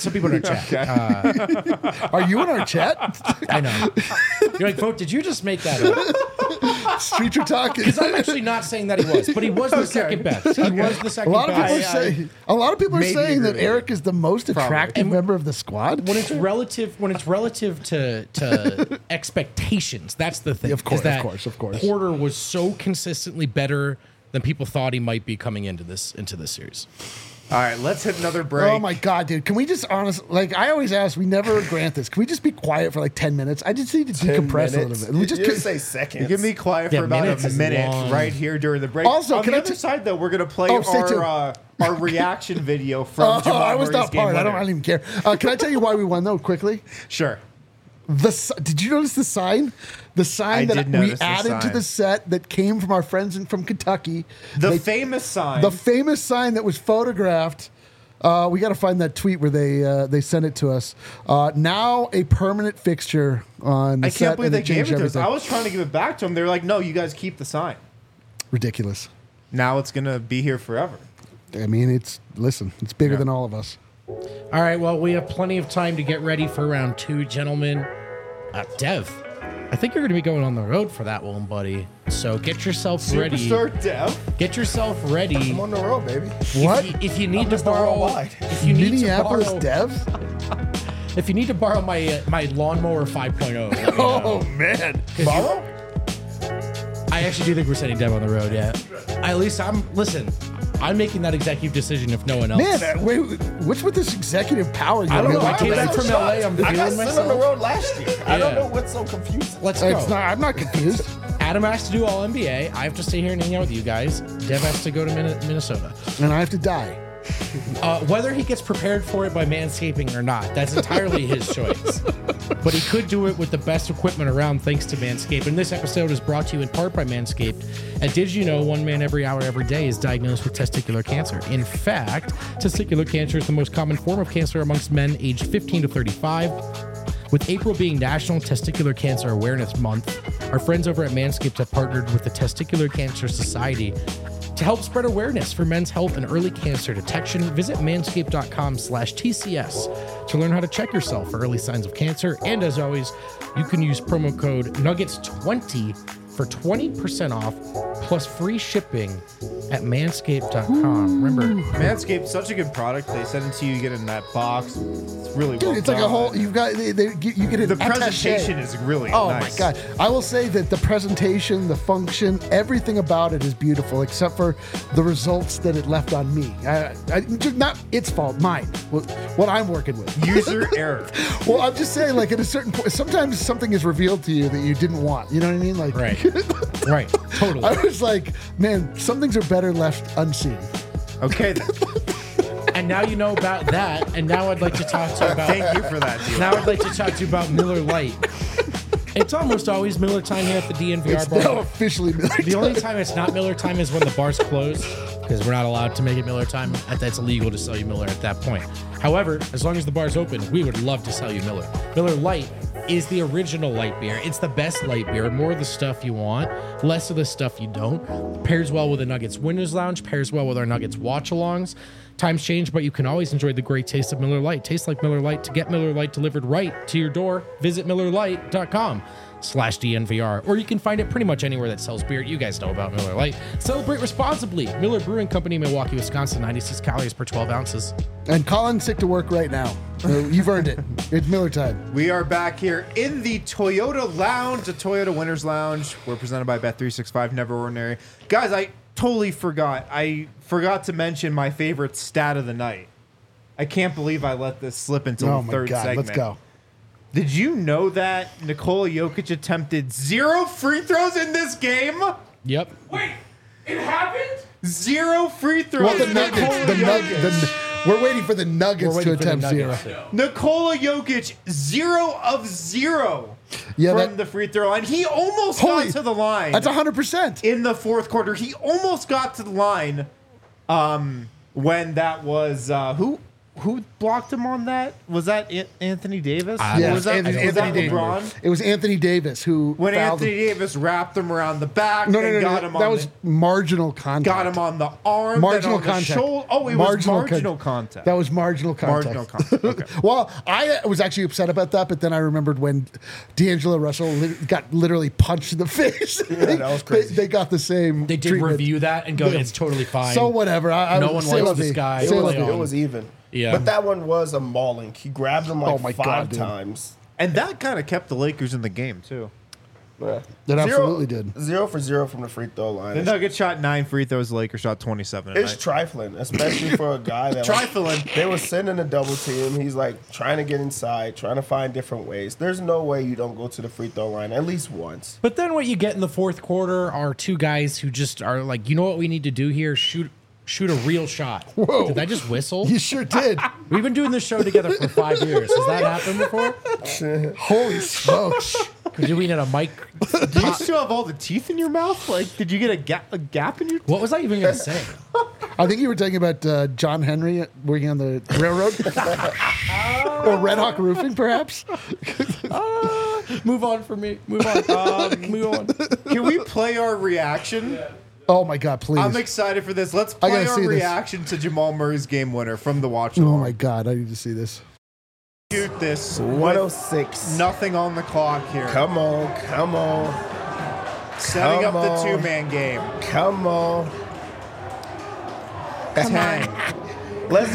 Are you in our chat? I know. You're like, Vote, did you just make that up? Street you're talking. Because I'm actually not saying that he was, but he was the second best. He was the A second lot of people are best. saying. A lot of people are maybe saying that agree with Eric is the most attractive member of the squad. When it's relative to expectations, that's the thing. Of course, is that of course. Porter was so consistently better than people thought he might be coming into this series. All right, let's hit another break. Oh my god, dude! Can we just I always ask, we never grant this. Can we just be quiet for like 10 minutes? I just need to decompress a little bit. We just you say seconds. Give me quiet Yeah, for about minutes a is minute long. right here during the break. Also, on can the I other t- side, though, we're going to play Oh, stay tuned. our reaction video from Oh, Jamal I was Murray's not game part. I winner. don't even care. Can I tell you why we won though? Quickly, Sure. Did you notice the sign? The sign I that did we notice the added to sign. the set that came from our friends from Kentucky. The famous sign. The famous sign that was photographed. We got to find that tweet where they sent it to us. Now a permanent fixture on the I set. can't believe and they gave it changed to us. everything. I was trying to give it back to them. They were like, no, you guys keep the sign. Ridiculous. Now it's going to be here forever. I mean, it's bigger than all of us. All right, well, we have plenty of time to get ready for round 2, gentlemen. Dev, I think you're going to be going on the road for that one, buddy. So get yourself ready. Superstar Dev. Get yourself ready. I'm on the road, baby. What? If you need to Mr. borrow, Worldwide. if you need to Minneapolis borrow, Dev? if you need to borrow my lawnmower 5.0, let me know. Oh man! Borrow? I actually do think we're sending Dev on the road. Yeah, at least I'm making that executive decision if no one else. Man, wait, what's with this executive power? I don't know. I Like, came back from LA. I'm I got feeling sent on the myself. road last year. I don't Yeah. know what's so confusing. Let's go. I'm not confused. Adam has to do all NBA. I have to stay here and hang out with you guys. Dev has to go to Minnesota. And I have to die. Whether he gets prepared for it by manscaping or not, that's entirely his choice. But he could do it with the best equipment around thanks to Manscaped. And this episode is brought to you in part by Manscaped. And did you know 1 man every hour, every day is diagnosed with testicular cancer? In fact, testicular cancer is the most common form of cancer amongst men aged 15 to 35. With April being National Testicular Cancer Awareness Month, our friends over at Manscaped have partnered with the Testicular Cancer Society to help spread awareness for men's health and early cancer detection. Visit manscaped.com/TCS to learn how to check yourself for early signs of cancer. And as always, you can use promo code Nuggets20 for 20% off plus free shipping at manscaped.com. Remember, Manscaped, such a good product. They send it to you, you get it in that box. It's really Dude, well it's like a done. whole. You've got you get an The attaché. presentation is really Oh nice. my god! I will say that the presentation, the function, everything about it is beautiful, except for the results that it left on me. Just not its fault, mine. What I'm working with. User error. Well, I'm just saying, like at a certain point, sometimes something is revealed to you that you didn't want. You know what I mean? Like, right, right, totally. I was like, man, some things are better left unseen. Okay, then. And now you know about that. And now I'd like to talk to you about. Thank you for that, dude. Now I'd like to talk to you about Miller Lite. It's almost always Miller time here at the DNVR It's bar. now officially Miller The only time. time it's not Miller time is when the bar's closed, because we're not allowed to make it Miller time. That's illegal to sell you Miller at that point. However, as long as the bar's open, we would love to sell you Miller. Miller Lite is the original light beer. It's the best light beer. More of the stuff you want, less of the stuff you don't. Pairs well with the Nuggets Winners Lounge, pairs well with our Nuggets watch-alongs. Times change, but you can always enjoy the great taste of Miller Lite. Tastes like Miller Lite. To get Miller Lite delivered right to your door, visit MillerLite.com/DNVR. Or you can find it pretty much anywhere that sells beer. You guys know about Miller Lite. Celebrate responsibly. Miller Brewing Company, Milwaukee, Wisconsin, 96 calories per 12 ounces. And Colin's sick to work right now. So you've earned it. It's Miller time. We are back here in the Toyota Lounge, the Toyota Winners Lounge. We're presented by Bet365, Never Ordinary. Guys, I totally forgot. I forgot to mention my favorite stat of the night. I can't believe I let this slip until Oh the my third god, segment. let's go. Did you know that Nikola Jokic attempted 0 free throws in this game? Yep. Wait, it happened? 0 free throws. Well, the Nikola Nuggets. Jokic. We're waiting for the Nuggets We're to waiting for the attempt zero. Nuggets. Nikola Jokic, 0 of 0 Yeah, from that- the free throw line. He almost Holy- got to the line. That's 100%. In the fourth quarter. He almost got to the line when that was who blocked him on that? Was that Anthony Davis? Or Yes, was that, Anthony was that Davis. LeBron? It was Anthony Davis who When fouled Anthony him. Davis wrapped him around the back No, and got him on that was the, marginal contact. got him on the arm, marginal then on contact. the shoulder. Oh, it was marginal contact. That was marginal contact. Marginal contact. Okay. Well, I was actually upset about that, but then I remembered when D'Angelo Russell got literally punched in the face. that was crazy. They got the same. They did treatment. review that and go, it's totally fine. So whatever. No one say likes la this vie. guy. Say la Play vie. on. It was even. Yeah. But that one was a mauling. He grabbed him like Oh my 5 God, dude. times. And that kind of kept the Lakers in the game, too. Yeah. That absolutely did. 0 for 0 from the free throw line. The Nuggets shot 9 free throws, the Lakers shot 27 It's tonight. trifling, especially for a guy that Trifling. they were sending a double team. He's like trying to get inside, trying to find different ways. There's no way you don't go to the free throw line at least once. But then what you get in the fourth quarter are two guys who just are like, you know what we need to do here? Shoot shoot a real shot. Whoa. Did I just whistle? You sure did. We've been doing this show together for 5 years. Has that happened before? Holy smokes. Could you mean at a mic? Do you still have all the teeth in your mouth? Like, did you get a gap in your? What was I even going to say? I think you were talking about John Henry working on the railroad. Or Red Hawk Roofing, perhaps. Move on for me. Move on. Move on. Can we play our reaction? Oh, my God, please. I'm excited for this. Let's I play gotta our see this. reaction to Jamal Murray's game winner from the watch Oh, along. my God, I need to see this. Shoot this. 106. Nothing on the clock here. Come on. Setting up come the on. two-man game. Come on. 10. Let's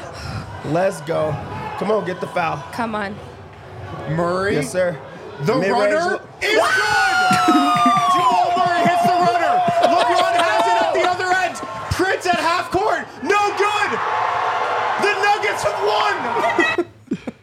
go. Come on, get the foul. Come on. Murray. Yes, sir. The Mid-range runner look- is good. Jamal Murray hits the runner. LeBron has it at the other end. Prince at half court. No good. The Nuggets have won.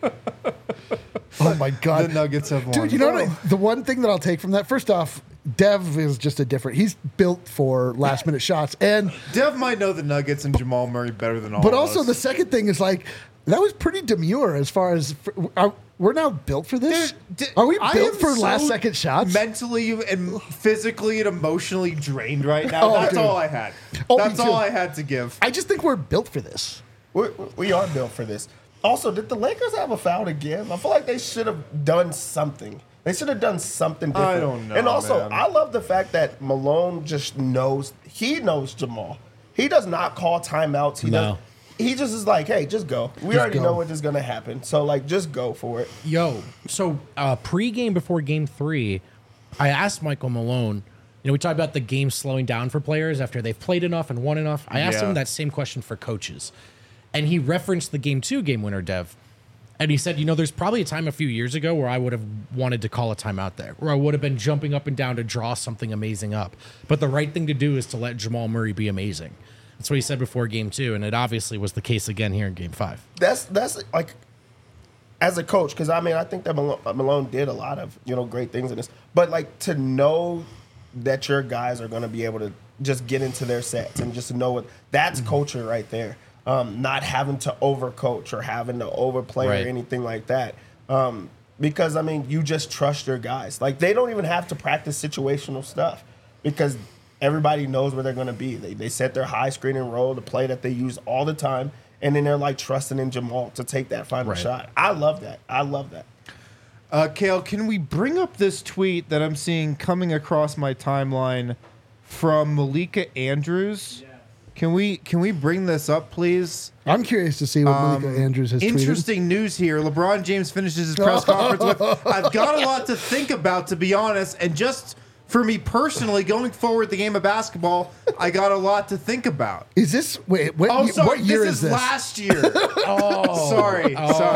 Oh, my God. The Nuggets have won. Dude, you know what? The one thing that I'll take from that, first off, Dev is just a different. He's built for last minute shots, and Dev might know the Nuggets and Jamal Murray better than all but of also us. the second thing is like that was pretty demure as far as we're now built for this. Are we I built am for so last second shots? Mentally and physically and emotionally drained right now. Oh, That's dude. all I had. Oh, That's me too. all I had to give. I just think we're built for this. We are built for this. Also, did the Lakers have a foul to give? I feel like they should have done something. They should have done something different. I don't know, And also, man. I love the fact that Malone just knows. He knows Jamal. He does not call timeouts. No. He just is like, hey, just go. We Just already go. know what is going to happen. So, like, just go for it. Yo, so pre-game before Game 3, I asked Michael Malone. You know, we talked about the game slowing down for players after they've played enough and won enough. I asked Yeah. him that same question for coaches, and he referenced the Game 2 game winner, Dev. And he said, you know, there's probably a time a few years ago where I would have wanted to call a timeout there, where I would have been jumping up and down to draw something amazing up. But the right thing to do is to let Jamal Murray be amazing. That's what he said before Game 2, and it obviously was the case again here in Game 5. That's like, as a coach, because I mean, I think that Malone did a lot of great things in this, but like to know that your guys are going to be able to just get into their sets and just know that's culture right there. Not having to overcoach or having to overplay Right. or anything like that. Because I mean, you just trust your guys. Like they don't even have to practice situational stuff because everybody knows where they're going to be. They set their high screen and roll, the play that they use all the time, and then they're like trusting in Jamal to take that final Right. shot. I love that. Kale, can we bring up this tweet that I'm seeing coming across my timeline from Malika Andrews? Can we bring this up, please? I'm curious to see what Malika Andrews has tweeted. Interesting news here. LeBron James finishes his press conference with, I've got a lot to think about, to be honest. And just for me personally, going forward the game of basketball, I got a lot to think about. Is this what Sorry, year this is this? last year. Sorry.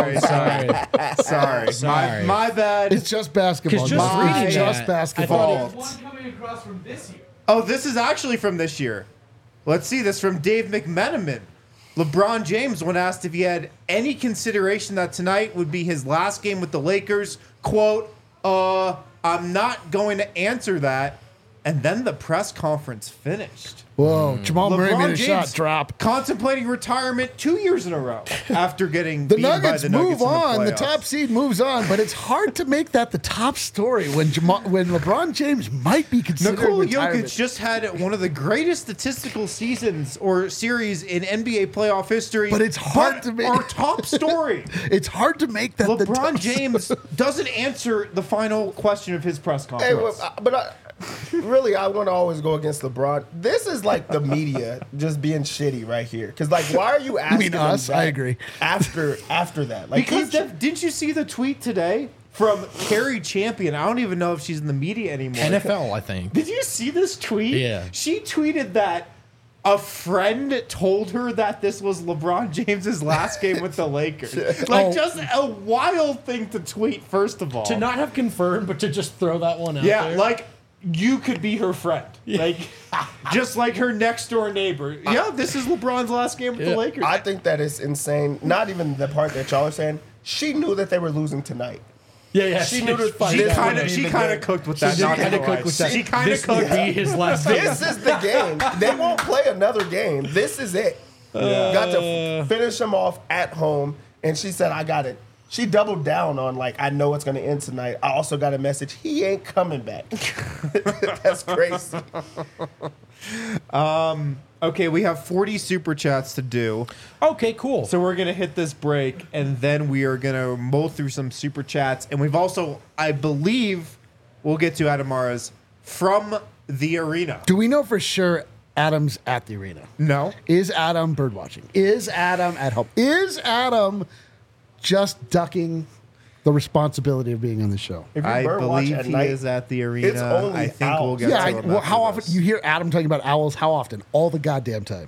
My bad. It's just basketball. 'Cause just It's reading just that, basketball. Fault. One coming across from this year. Oh, this is actually from this year. Let's see this from Dave McMenamin. LeBron James, when asked if he had any consideration that tonight would be his last game with the Lakers, quote, I'm not going to answer that. And then the press conference finished. Whoa, Jamal Murray made a shot drop. contemplating retirement 2 years in a row after getting The beaten by Nuggets the Nuggets move in on. The playoffs. top seed moves on, but it's hard to make that the top story when LeBron James might be considered Nikola retirement. Jokic just had one of the greatest statistical seasons or series in NBA playoff history. But it's hard to make- our top story. It's hard to make that the LeBron top James doesn't answer the final question of his press Hey, conference. really, I want to always go against LeBron. This is like the media just being shitty right here. Because like, why are you asking? mean them us? that I agree. After that, like, because he- didn't you see the tweet today from Carrie Champion? I don't even know if she's in the media anymore. NFL, I think. Did you see this tweet? Yeah. She tweeted that a friend told her that this was LeBron James's last game with the Lakers. Like, Oh. just a wild thing to tweet, first of all. To not have confirmed, but to just throw that one out yeah, there. like, you could be her friend. Like, just like her next door neighbor. Yeah, this is LeBron's last game with the Lakers. I think that is insane. Not even the part that y'all are saying. She knew that they were losing tonight. Yeah. She knew that She this kind would of be the game. cooked with that. She not kind gonna of lie. cooked with that. She kind of This would cooked. be his last game. This is the game. They won't play another game. This is it. Got to finish them off at home. And she said, I got it. She doubled down on, like, I know it's going to end tonight. I also got a message. He ain't coming back. That's crazy. Okay, we have 40 super chats to do. Okay, cool. So we're going to hit this break, and then we are going to mull through some super chats. And we've also, I believe, we'll get to Adamara's from the arena. Do we know for sure Adam's at the arena? No? Is Adam birdwatching? Is Adam at home? Is Adam just ducking the responsibility of being on the show? If you I bird watch believe at he night, is at the arena. it's only I think we'll owls. get Yeah, to him well, after how often this. you hear Adam talking about owls? How often? All the goddamn time.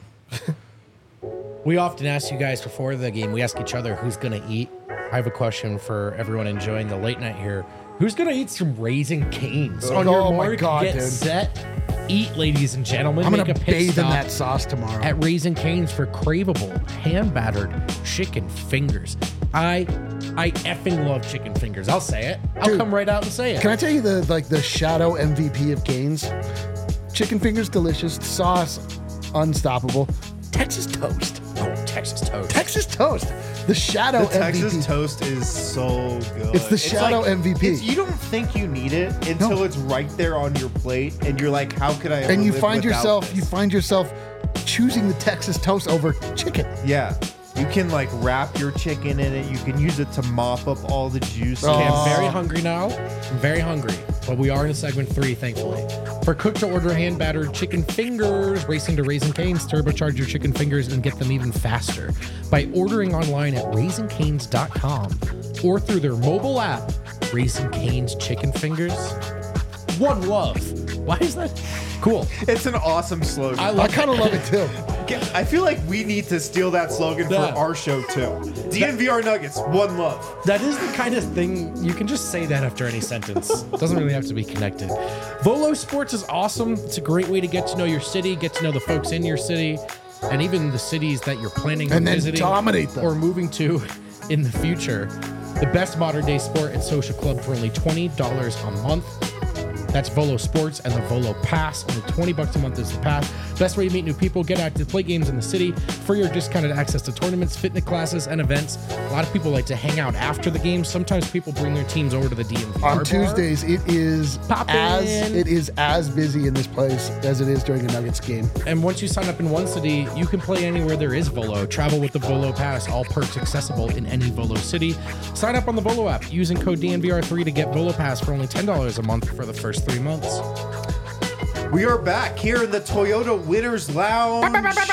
We often ask you guys before the game, we ask each other who's going to eat. I have a question for everyone enjoying the late night here. Who's going to eat some Raising Cane's? On your Oh my mark, God, get dude. set, eat, ladies and gentlemen. I'm Make gonna a pit bathe in stop that sauce tomorrow. at Raising Cane's for craveable, hand-battered chicken fingers. I effing love chicken fingers. I'll say it. I'll Dude, come right out and say it. Can I tell you the shadow MVP of Cane's? Chicken fingers, delicious. Sauce, unstoppable. Texas toast. Oh, Texas toast. Texas toast. The shadow The Texas MVP. toast is so good. It's the shadow MVP. You don't think you need it until it's right there on your plate, and you're like, "How could I?" Ever And you live find without yourself choosing the Texas toast over chicken. Yeah, you can like wrap your chicken in it. You can use it to mop up all the juice. Okay, I'm very hungry now. I'm very hungry. But we are in segment 3, thankfully. For cook-to-order hand-battered chicken fingers, racing to Raising Cane's, turbocharge your chicken fingers and get them even faster by ordering online at raisingcanes.com or through their mobile app, Raising Cane's Chicken Fingers. One love. Why is that? Cool. It's an awesome slogan. I kind of love it too. I feel like we need to steal that slogan Yeah. for our show too. DNVR Nuggets, one love. That is the kind of thing you can just say that after any sentence. It doesn't really have to be connected. Volo Sports is awesome. It's a great way to get to know your city, get to know the folks in your city, and even the cities that you're planning on And then visiting dominate them. or moving to in the future. The best modern day sport and social club for only $20 a month. That's Volo Sports and the Volo Pass. Only $20 a month is the pass. Best way to meet new people, get out to play games in the city, free or discounted access to tournaments, fitness classes, and events. A lot of people like to hang out after the game. Sometimes people bring their teams over to the DMV bar. On Tuesdays, it is Poppin'. as busy in this place as it is during a Nuggets game. And once you sign up in one city, you can play anywhere there is Volo. Travel with the Volo Pass. All perks accessible in any Volo city. Sign up on the Volo app using code DNVR3 to get Volo Pass for only $10 a month for the first 3 months. We are back here in the Toyota Winners Lounge.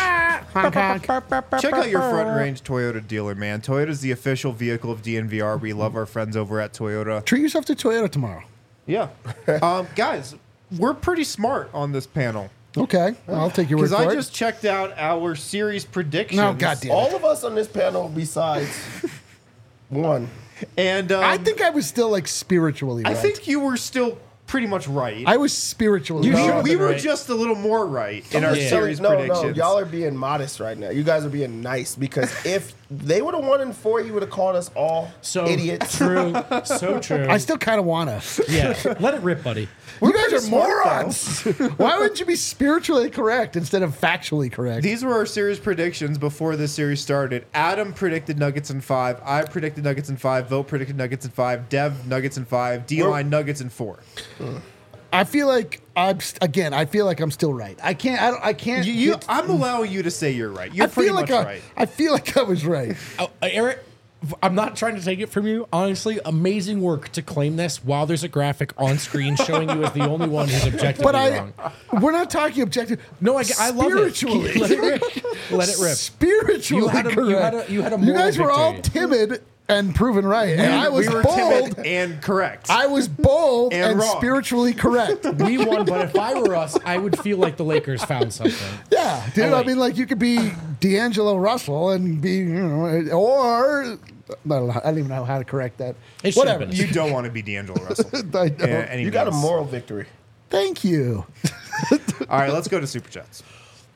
Check out your Front Range Toyota dealer, man. Toyota's the official vehicle of DNVR. We love our friends over at Toyota. Treat yourself to Toyota tomorrow. Yeah. Guys, we're pretty smart on this panel. Okay, I'll take your word Because for I it. just checked out our series predictions. No, goddamn. All of us on this panel, besides one, And I think I was still like spiritually right. I think you were still pretty much right. I was spiritually we right. we were right. just a little more right in I'm our just series telling- predictions. No, y'all are being modest right now. You guys are being nice because if they would have won in 4, you would have called us all So idiots. true. So true. I still kind of want to. Yeah. Let it rip, buddy. You guys are smart, morons. Why wouldn't you be spiritually correct instead of factually correct? These were our series predictions before this series started. Adam predicted Nuggets in 5. I predicted Nuggets in 5. Vote predicted Nuggets in 5. Dev Nuggets in 5. D-Line Nuggets in 4. I feel like I feel like I'm still right. I can't. I'm allowing you to say you're right. You're I pretty feel like much right. I feel like I was right. Eric, I'm not trying to take it from you. Honestly, amazing work to claim this while there's a graphic on screen showing you as the only one who's objectively But wrong. we're not talking objective. No, I love it. Spiritually. Let it rip. Let it rip. Spiritually You had a- correct. you had a You moral guys were all victory. timid and proven right, and I was we were bold. timid and correct. I was bold And and wrong. spiritually correct. We won, but if I were us, I would feel like the Lakers found something. Yeah, dude. Oh, I wait. mean, like you could be D'Angelo Russell and be, or I don't even know how to correct that. It should have Whatever. been. you don't want to be D'Angelo Russell. I don't. Any You got a means. moral victory. Thank you. All right, let's go to Super Chats.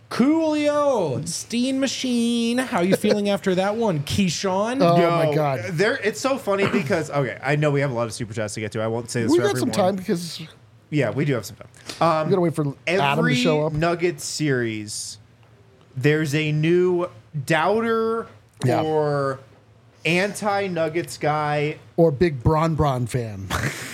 Coolio, Steen Machine. How you feeling after that one, Keyshawn? Oh Yo, my God. It's so funny because okay, I know we have a lot of super chats to get to. I won't say this We for got some everyone. time because we Yeah, we do have some time. gotta wait for Adam to Every show up. Nuggets series, there's a new doubter Yeah. or anti-Nuggets guy, Or big Bron fan.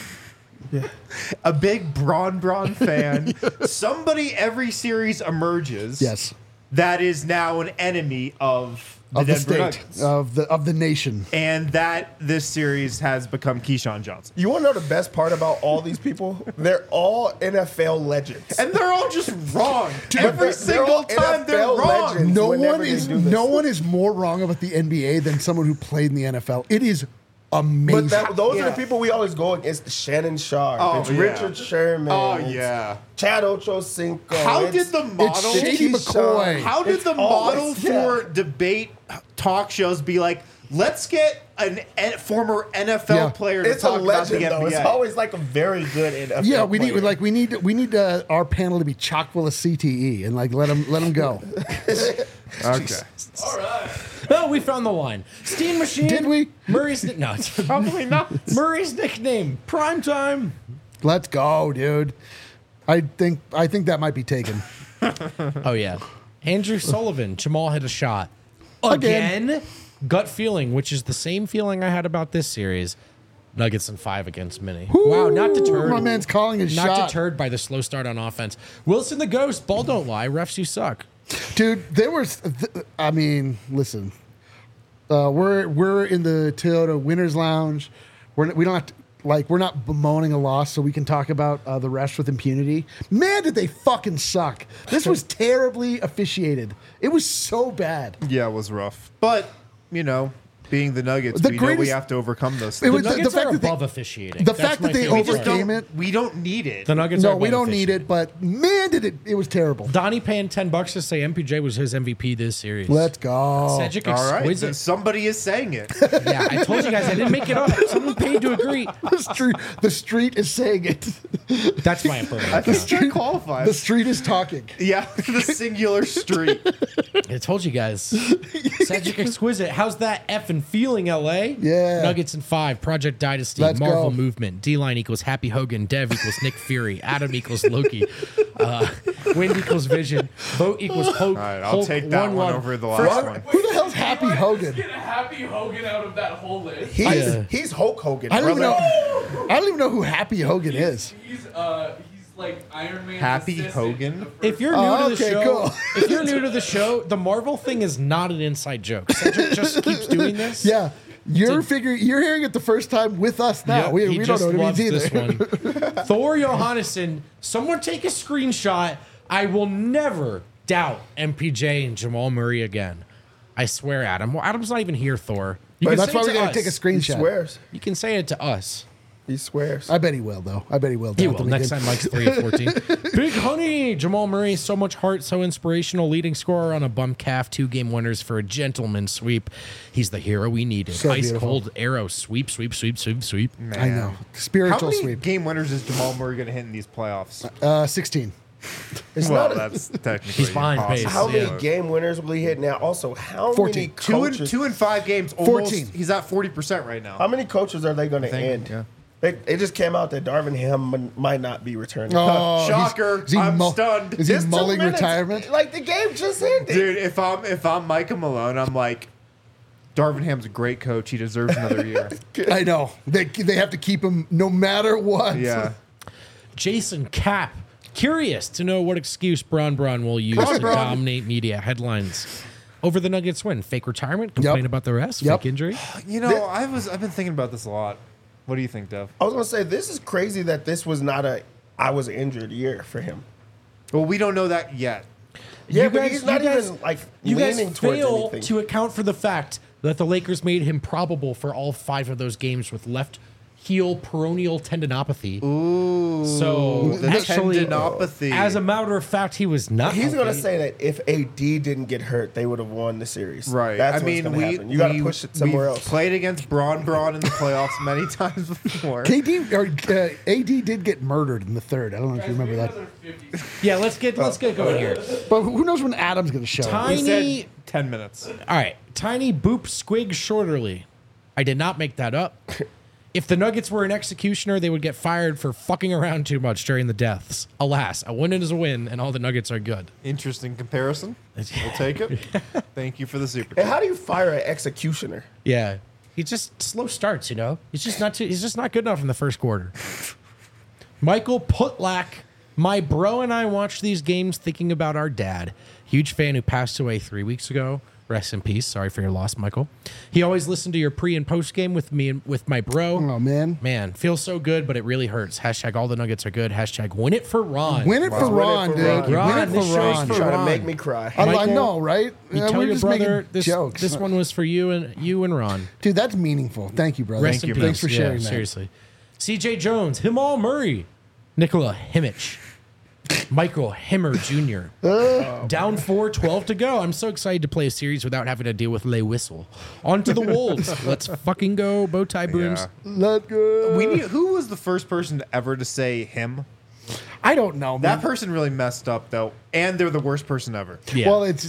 a big Bron fan. Somebody every series emerges. Yes. That is now an enemy of the Of the Denver state. Nuggets. Of the nation. And that this series has become Keyshawn Johnson. You want to know the best part about all these people? They're all NFL legends. And they're all just wrong. Every they're single all time they're NFL wrong. legends. Whenever they do this. No one is more wrong about the NBA than someone who played in the NFL. It is amazing. But those are Yeah. the people we always go against. Shannon Sharp. Oh, it's yeah. Richard Sherman. Oh, it's yeah. Chad Ochocinco. How it's- did the model... Shady McCoy. How did It's the always- model yeah. for debate talk shows be like, let's get a former NFL Yeah. player to It's a talk about the legend, though. It's NBA? always like a very good NFL Yeah, we player. need our panel to be chock full of CTE and like let them go. Okay. All right. Oh, we found the line. Steen Machine. Did we? Murray's no, it's probably not. Murray's nickname. Primetime. Let's go, dude. I think that might be taken. Oh yeah. Andrew Sullivan. Jamal hit a shot. Again. Again. Gut feeling, which is the same feeling I had about this series. Nuggets in 5 against Mini. Wow, not deterred. My man's calling his Not shot. deterred by the slow start on offense. Wilson the Ghost. Ball don't lie. Refs, you suck. Dude, I mean, listen. We're in the Toyota Winners Lounge. We don't have to, we're not bemoaning a loss, so we can talk about the rest with impunity. Man, did they fucking suck. This was terribly officiated. It was so bad. Yeah, it was rough. But, you know, being the Nuggets, The we know we greatest- have to overcome those It things. was- The the Nuggets fact are that they- above officiating. the That's fact my that they favorite We just part. overcame it. we don't need it. The Nuggets are No, above we don't need officiating. it, but man, it was terrible. Donnie paying $10 to say MPJ was his MVP this series. Let's go. Cedric All right. exquisite. Somebody is saying it. Yeah, I told you guys I didn't make it up. Someone paid to agree. The street is saying it. That's my impression. I think that qualifies. The street is talking. Yeah, the singular street. I told you guys. Cedric exquisite. How's that effing feeling, LA? Yeah. Nuggets in 5. Project Dynasty. Let's Marvel go. Movement. D-line equals Happy Hogan. Dev equals Nick Fury. Adam equals Loki. Wind equals Vision. Vote equals Hulk. All right, I'll Hulk, take that one love. over the last one. Who the hell's Happy Hogan? Get a Happy Hogan out of that whole list. He's Hulk Hogan. I don't even brother. know. I don't even know who Happy Hogan is. He's like Iron Man. Happy Hogan? If you're new Oh, to the okay, show, cool. if you're new to the show, the Marvel thing is not an inside joke. Cedric just keeps doing this. Yeah. You're hearing it the first time with us now. Yep, we he don't just know what it loves means this either. one. Thor Johannesson, someone take a screenshot. I will never doubt MPJ and Jamal Murray again. I swear, Adam. Well, Adam's not even here, Thor. You But can that's say why it we to gotta us. take a He screenshot. swears. You can say it to us. He swears. I bet he will, though. I bet he will. He Doubt will. them Next again. time, Mike's 3 of 14. Big Honey. Jamal Murray, so much heart, so inspirational. Leading scorer on a bum calf. 2-game winners for a gentleman sweep. He's the hero we needed. So Ice beautiful. cold arrow. Sweep, sweep, sweep, sweep, sweep. I know. How Spiritual many sweep. game winners is Jamal Murray going to hit in these playoffs? 16. It's Well, not. that's technically He's behind impossible. pace. How many Yeah. game winners will he hit now? Also, how 14. many coaches? Two in 5 games. Almost, 14. He's at 40% right now. How many coaches are they going to think, end? yeah. It just came out that Darvin Ham might not be returning. Oh, Shocker. I'm stunned. Is he Just 2 mulling minutes. retirement? Like the game just ended. Dude, if I'm Micah Malone, I'm like, Darvin Ham's a great coach. He deserves another year. I know. They have to keep him no matter what. Yeah. Jason Cap. Curious to know what excuse Bron will use Come on, to Bron. dominate media headlines. Over the Nuggets win. Fake retirement? Complain Yep. about the rest? Yep. Fake injury? You know, I've been thinking about this a lot. What do you think, Dev? I was going to say, this is crazy that this was not I was injured year for him. Well, we don't know that yet. Yeah, You but guys- he's not you guys- even like You guys leaning towards fail anything. to account for the fact that the Lakers made him probable for all 5 of those games with left heel peroneal tendinopathy. Ooh, So the actually, tendinopathy. as a matter of fact, he was not. He's going to healthy. say that if AD didn't get hurt, they would have won the series. Right. That's I mean, what's going to happen. You got to push it somewhere we've else. Played against Braun in the playoffs many times before. KD or AD did get murdered in the third. I don't know if you remember that. Yeah, let's get going here. But who knows when Adam's going to show up? He Tiny. said 10 minutes. All right, Tiny Boop Squig Shorterly. I did not make that up. If the Nuggets were an executioner, they would get fired for fucking around too much during the deaths. Alas, a win is a win, and all the Nuggets are good. Interesting comparison. We'll take it. Thank you for the super. And how do you fire an executioner? Yeah, he just slow starts. You know, he's just not good enough in the first quarter. Michael Putlack, my bro and I watched these games thinking about our dad. Huge fan who passed away 3 weeks ago. Rest in peace. Sorry for your loss, Michael. He always listened to your pre and post game with me and with my bro. Oh, man. Man, feels so good, but it really hurts. Hashtag all the Nuggets are good. Hashtag win it for Ron. Win it for Ron, dude. Ron. Win Ron, it this for show's Ron. for Trying to Ron. make me cry. I Michael, know, right? You tell We're your just brother making this, jokes. this one was for you and Ron. Dude, that's meaningful. Thank you, brother. Rest in peace. Thanks for sharing that. Seriously. CJ Jones, Himal Murray, Nikola Himich, Michael Himmer Jr. Down 4-12 to go. I'm so excited to play a series without having to deal with lay whistle. On to the Wolves. Let's fucking go, bow tie brooms. Yeah. Let go. Who was the first person ever to say him? I don't know, man. That person really messed up, though, and they're the worst person ever. Yeah. Well, it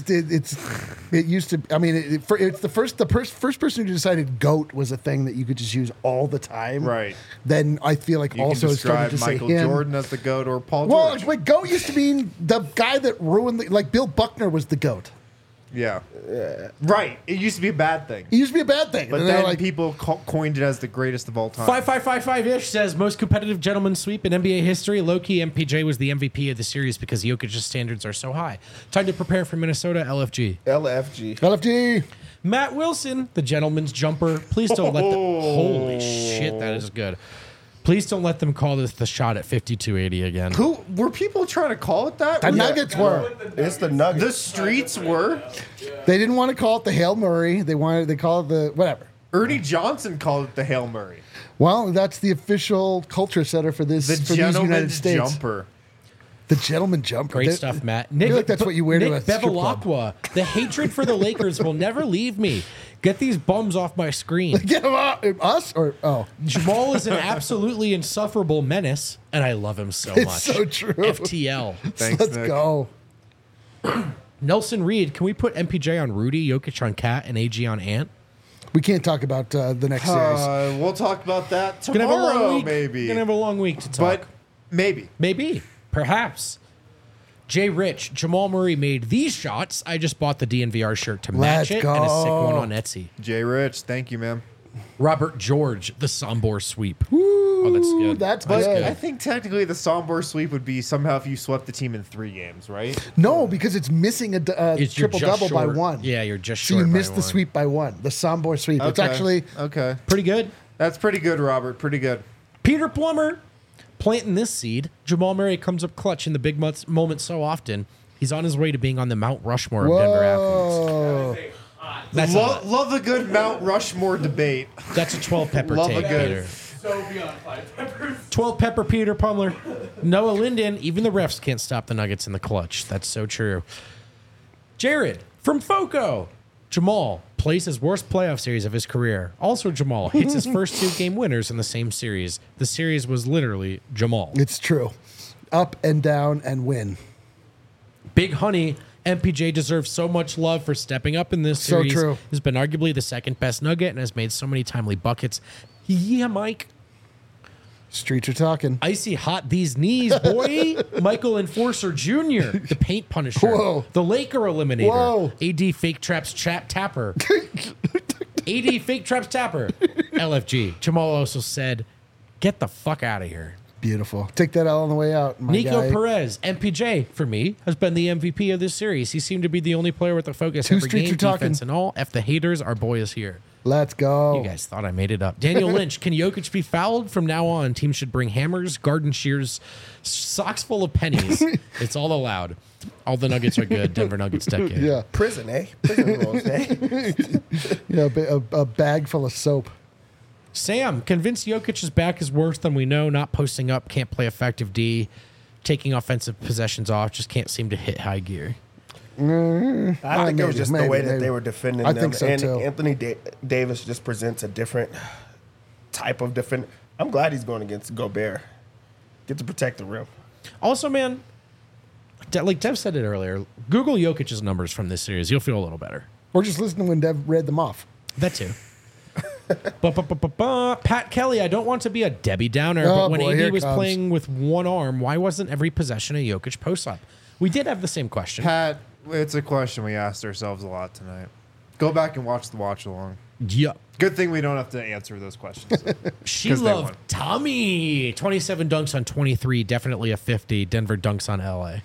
used to. I mean, it's the first person who decided "goat" was a thing that you could just use all the time. Right. Then I feel like You also can it started describe to Michael say him. Jordan as the GOAT or Paul Well, George. but goat used to mean the guy that ruined like Bill Buckner was the goat. Yeah. Right. It used to be a bad thing. It used to be a bad thing. But and they're then like, people coined it as the greatest of all time. 5555-ish says most competitive gentleman sweep in NBA history. Low-key, MPJ was the MVP of the series because Jokic's standards are so high. Time to prepare for Minnesota, LFG. LFG. LFG. Matt Wilson, the gentleman's jumper. Please don't let them. Holy shit, that is good. Please don't let them call this the shot at 5280 again. Who were people trying to call it that? The Nuggets were. It's the Nuggets. The streets were. They didn't want to call it the Hail Murray. They call it the whatever. Ernie Johnson called it the Hail Murray. Well, that's the official culture setter for this The for these United gentleman's States. jumper. The gentleman jumper. Great They- stuff, Matt. I feel like that's what you wear to Nick a strip club. Bevilacqua. The hatred for the Lakers will never leave me. Get these bums off my screen. Get him out. Us or Jamal is an absolutely insufferable menace, and I love him so It's much. so true. FTL. Thanks, let's Nick. go. Nelson Reed, can we put MPJ on Rudy, Jokic on Cat, and AG on Ant? We can't talk about the next series. We'll talk about that Gonna have a long tomorrow, week. maybe. Gonna have a long week to talk. But maybe. Maybe. Perhaps. Jay Rich, Jamal Murray made these shots. I just bought the DNVR shirt to match Let's it and a sick go. one on Etsy. Jay Rich, thank you, man. Robert George, the Sombor sweep. Oh, that's good. That's But good. I think technically the Sombor sweep would be somehow if you swept the team in 3 games, right? No, because it's missing a You're triple just double by short. one. Yeah, you're just So short. you by missed the one. sweep by one. The Sombor sweep. It's Okay. actually Okay. Pretty good. That's pretty good, Robert. Pretty good. Peter Plummer planting this seed. Jamal Murray comes up clutch in the big moment so often. He's on his way to being on the Mount Rushmore of Denver athletes. whoa. That's Love a good Mount Rushmore debate. That's a 12 pepper Love a take, good- Peter. So beyond 5 peppers. 12 pepper Peter Plummer. Noah Linden. Even the refs can't stop the Nuggets in the clutch. That's so true. Jared from Foco. Jamal plays his worst playoff series of his career. Also, Jamal hits his first 2 game winners in the same series. The series was literally Jamal. It's true. Up and down and win. Big Honey, MPJ deserves so much love for stepping up in this So series. true. He's been arguably the second best Nugget and has made so many timely buckets. Yeah, Mike. Streets are talking. Icy hot these knees, boy. Michael Enforcer Jr., the paint punisher. Whoa. The Laker eliminator. Whoa. AD fake traps tapper. AD fake traps tapper. LFG. Jamal also said, get the fuck out of here. Beautiful. Take that L on the way out, my Nico guy. Perez, MPJ, for me, has been the MVP of this series. He seemed to be the only player with the focus Two every streets game, are talking. defense and all. F the haters, our boy is here. Let's go. You guys thought I made it up. Daniel Lynch, can Jokic be fouled? From now on, teams should bring hammers, garden shears, socks full of pennies. It's all allowed. All the Nuggets are good. Denver Nuggets decade. Yeah. Prison, eh? Prison rules, eh? Yeah, a bag full of soap. Sam, convinced Jokic's back is worse than we know. Not posting up, can't play effective D, taking offensive possessions off, just can't seem to hit high gear. I think it was just the way that they were defending I them. think so, and too. Anthony Davis just presents a different type of defender. I'm glad he's going against Gobert. Get to protect the rim. Also, man, like Dev said it earlier, Google Jokic's numbers from this series. You'll feel a little better. Or just listening when Dev read them off. That too. Pat Kelly, I don't want to be a Debbie Downer, Oh, but when boy, here AD it was comes. playing with one arm, why wasn't every possession a Jokic post-up? We did have the same question. Pat, it's a question we asked ourselves a lot tonight. Go back and watch the watch along. Yeah. Good thing we don't have to answer those questions. She 'Cause they loved won. Tommy. 27 dunks on 23, definitely a 50. Denver dunks on LA.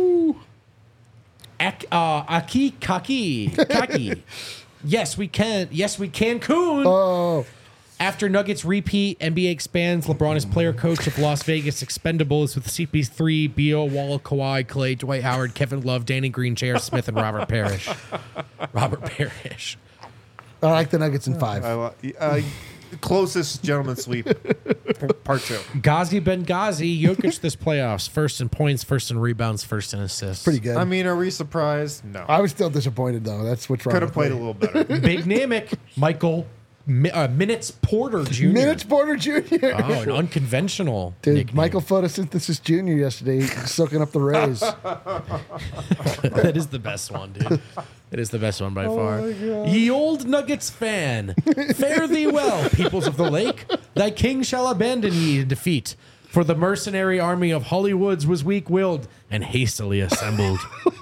Aki Kaki. Yes, we can. Yes, we can. Coon. Oh, After Nuggets repeat, NBA expands. LeBron is player coach of Las Vegas Expendables with CP3, Beal, Wall, Kawhi, Clay, Dwight Howard, Kevin Love, Danny Green, J.R. Smith, and Robert Parrish. Robert Parrish. I like the Nuggets in 5. Closest gentleman sweep. Part 2. Ghazi Benghazi, Jokic this playoffs. First in points, first in rebounds, first in assists. Pretty good. I mean, are we surprised? No. I was still disappointed though. That's what's wrong. Could have with played a me. little better. Big Namick, Michael Minutes Porter Jr. Minutes Porter Jr. Oh, an unconventional Dude, nickname. Michael Photosynthesis Jr. yesterday soaking up the rays. That is the best one, dude. It is the best one by far. Ye old Nuggets fan, fare thee well, peoples of the lake. Thy king shall abandon ye in defeat. For the mercenary army of Hollywoods was weak-willed and hastily assembled.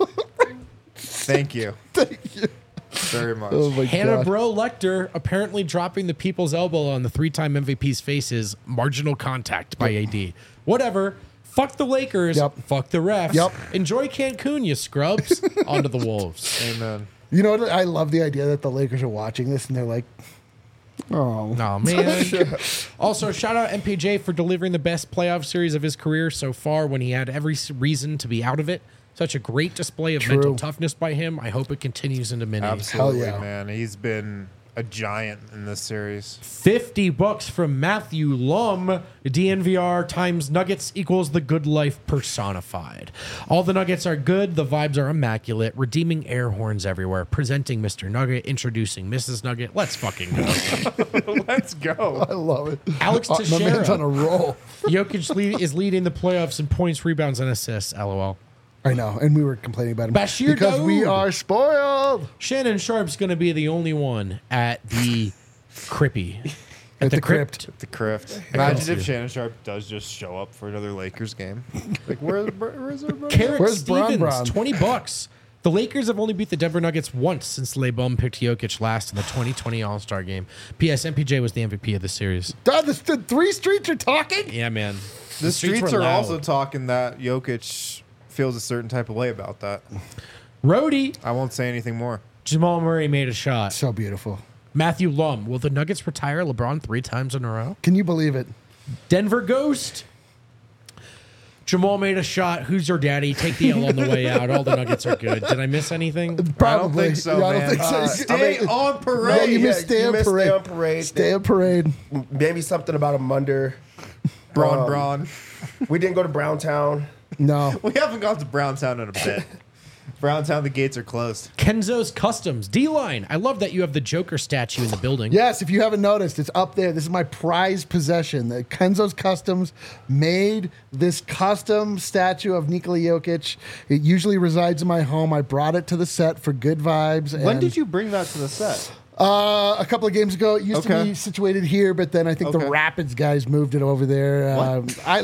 Thank you. Thank you. Very much. Oh my Hannah god. Bro Lecter apparently dropping the people's elbow on the 3-time MVP's faces. Marginal contact by AD. Whatever. Fuck the Lakers. Yep. Fuck the refs. Yep. Enjoy Cancun, you scrubs. On to the Wolves. Amen. You know what? I love the idea that the Lakers are watching this and they're like, oh. Oh, man. Also, shout out MPJ for delivering the best playoff series of his career so far when he had every reason to be out of it. Such a great display of mental toughness by him. I hope it continues into mini. Absolutely, Hell yeah. man. He's been a giant in this series. $50 from Matthew Lum. DNVR times Nuggets equals the good life personified. All the Nuggets are good. The vibes are immaculate. Redeeming air horns everywhere. Presenting Mr. Nugget. Introducing Mrs. Nugget. Let's fucking go. Let's go. I love it. Alex My man's on a Teixeira. roll. Jokic is leading the playoffs in points, rebounds, and assists. LOL. I know, and we were complaining about him Bashir because we Daoud. are spoiled. Shannon Sharp's going to be the only one at the Crippy. At the crypt. The Crift. Thank Imagine you. if Shannon Sharp does just show up for another Lakers game. Like, where's everybody? Carrot Where's Bron Stevens, Bron? $20. The Lakers have only beat the Denver Nuggets once since LeBron picked Jokic last in the 2020 All-Star game. P.S. MPJ was the MVP of the series. God, the 3 streets are talking. Yeah, man. The streets were are loud. also talking that Jokic feels a certain type of way about that. Rhodey, I won't say anything more. Jamal Murray made a shot. So beautiful. Matthew Lum, will the Nuggets retire LeBron 3 times in a row? Can you believe it? Denver Ghost. Jamal made a shot. Who's your daddy? Take the L on the way out. All the Nuggets are good. Did I miss anything? Probably. I don't think so, Yeah, I don't man. think so. Stay on Yeah, parade. you missed stay you on missed parade. Stay on parade. Stay on parade. Maybe something about a Munder. Braun. We didn't go to Browntown. No. We haven't gone to Browntown in a bit. Browntown, the gates are closed. Kenzo's Customs. D-Line. I love that you have the Joker statue in the building. Yes, if you haven't noticed, it's up there. This is my prized possession. The Kenzo's Customs made this custom statue of Nikola Jokic. It usually resides in my home. I brought it to the set for good vibes. When and, did you bring that to the set? A couple of games ago. It used to Okay. be situated here, but then I think the Okay. Rapids guys moved it over there. I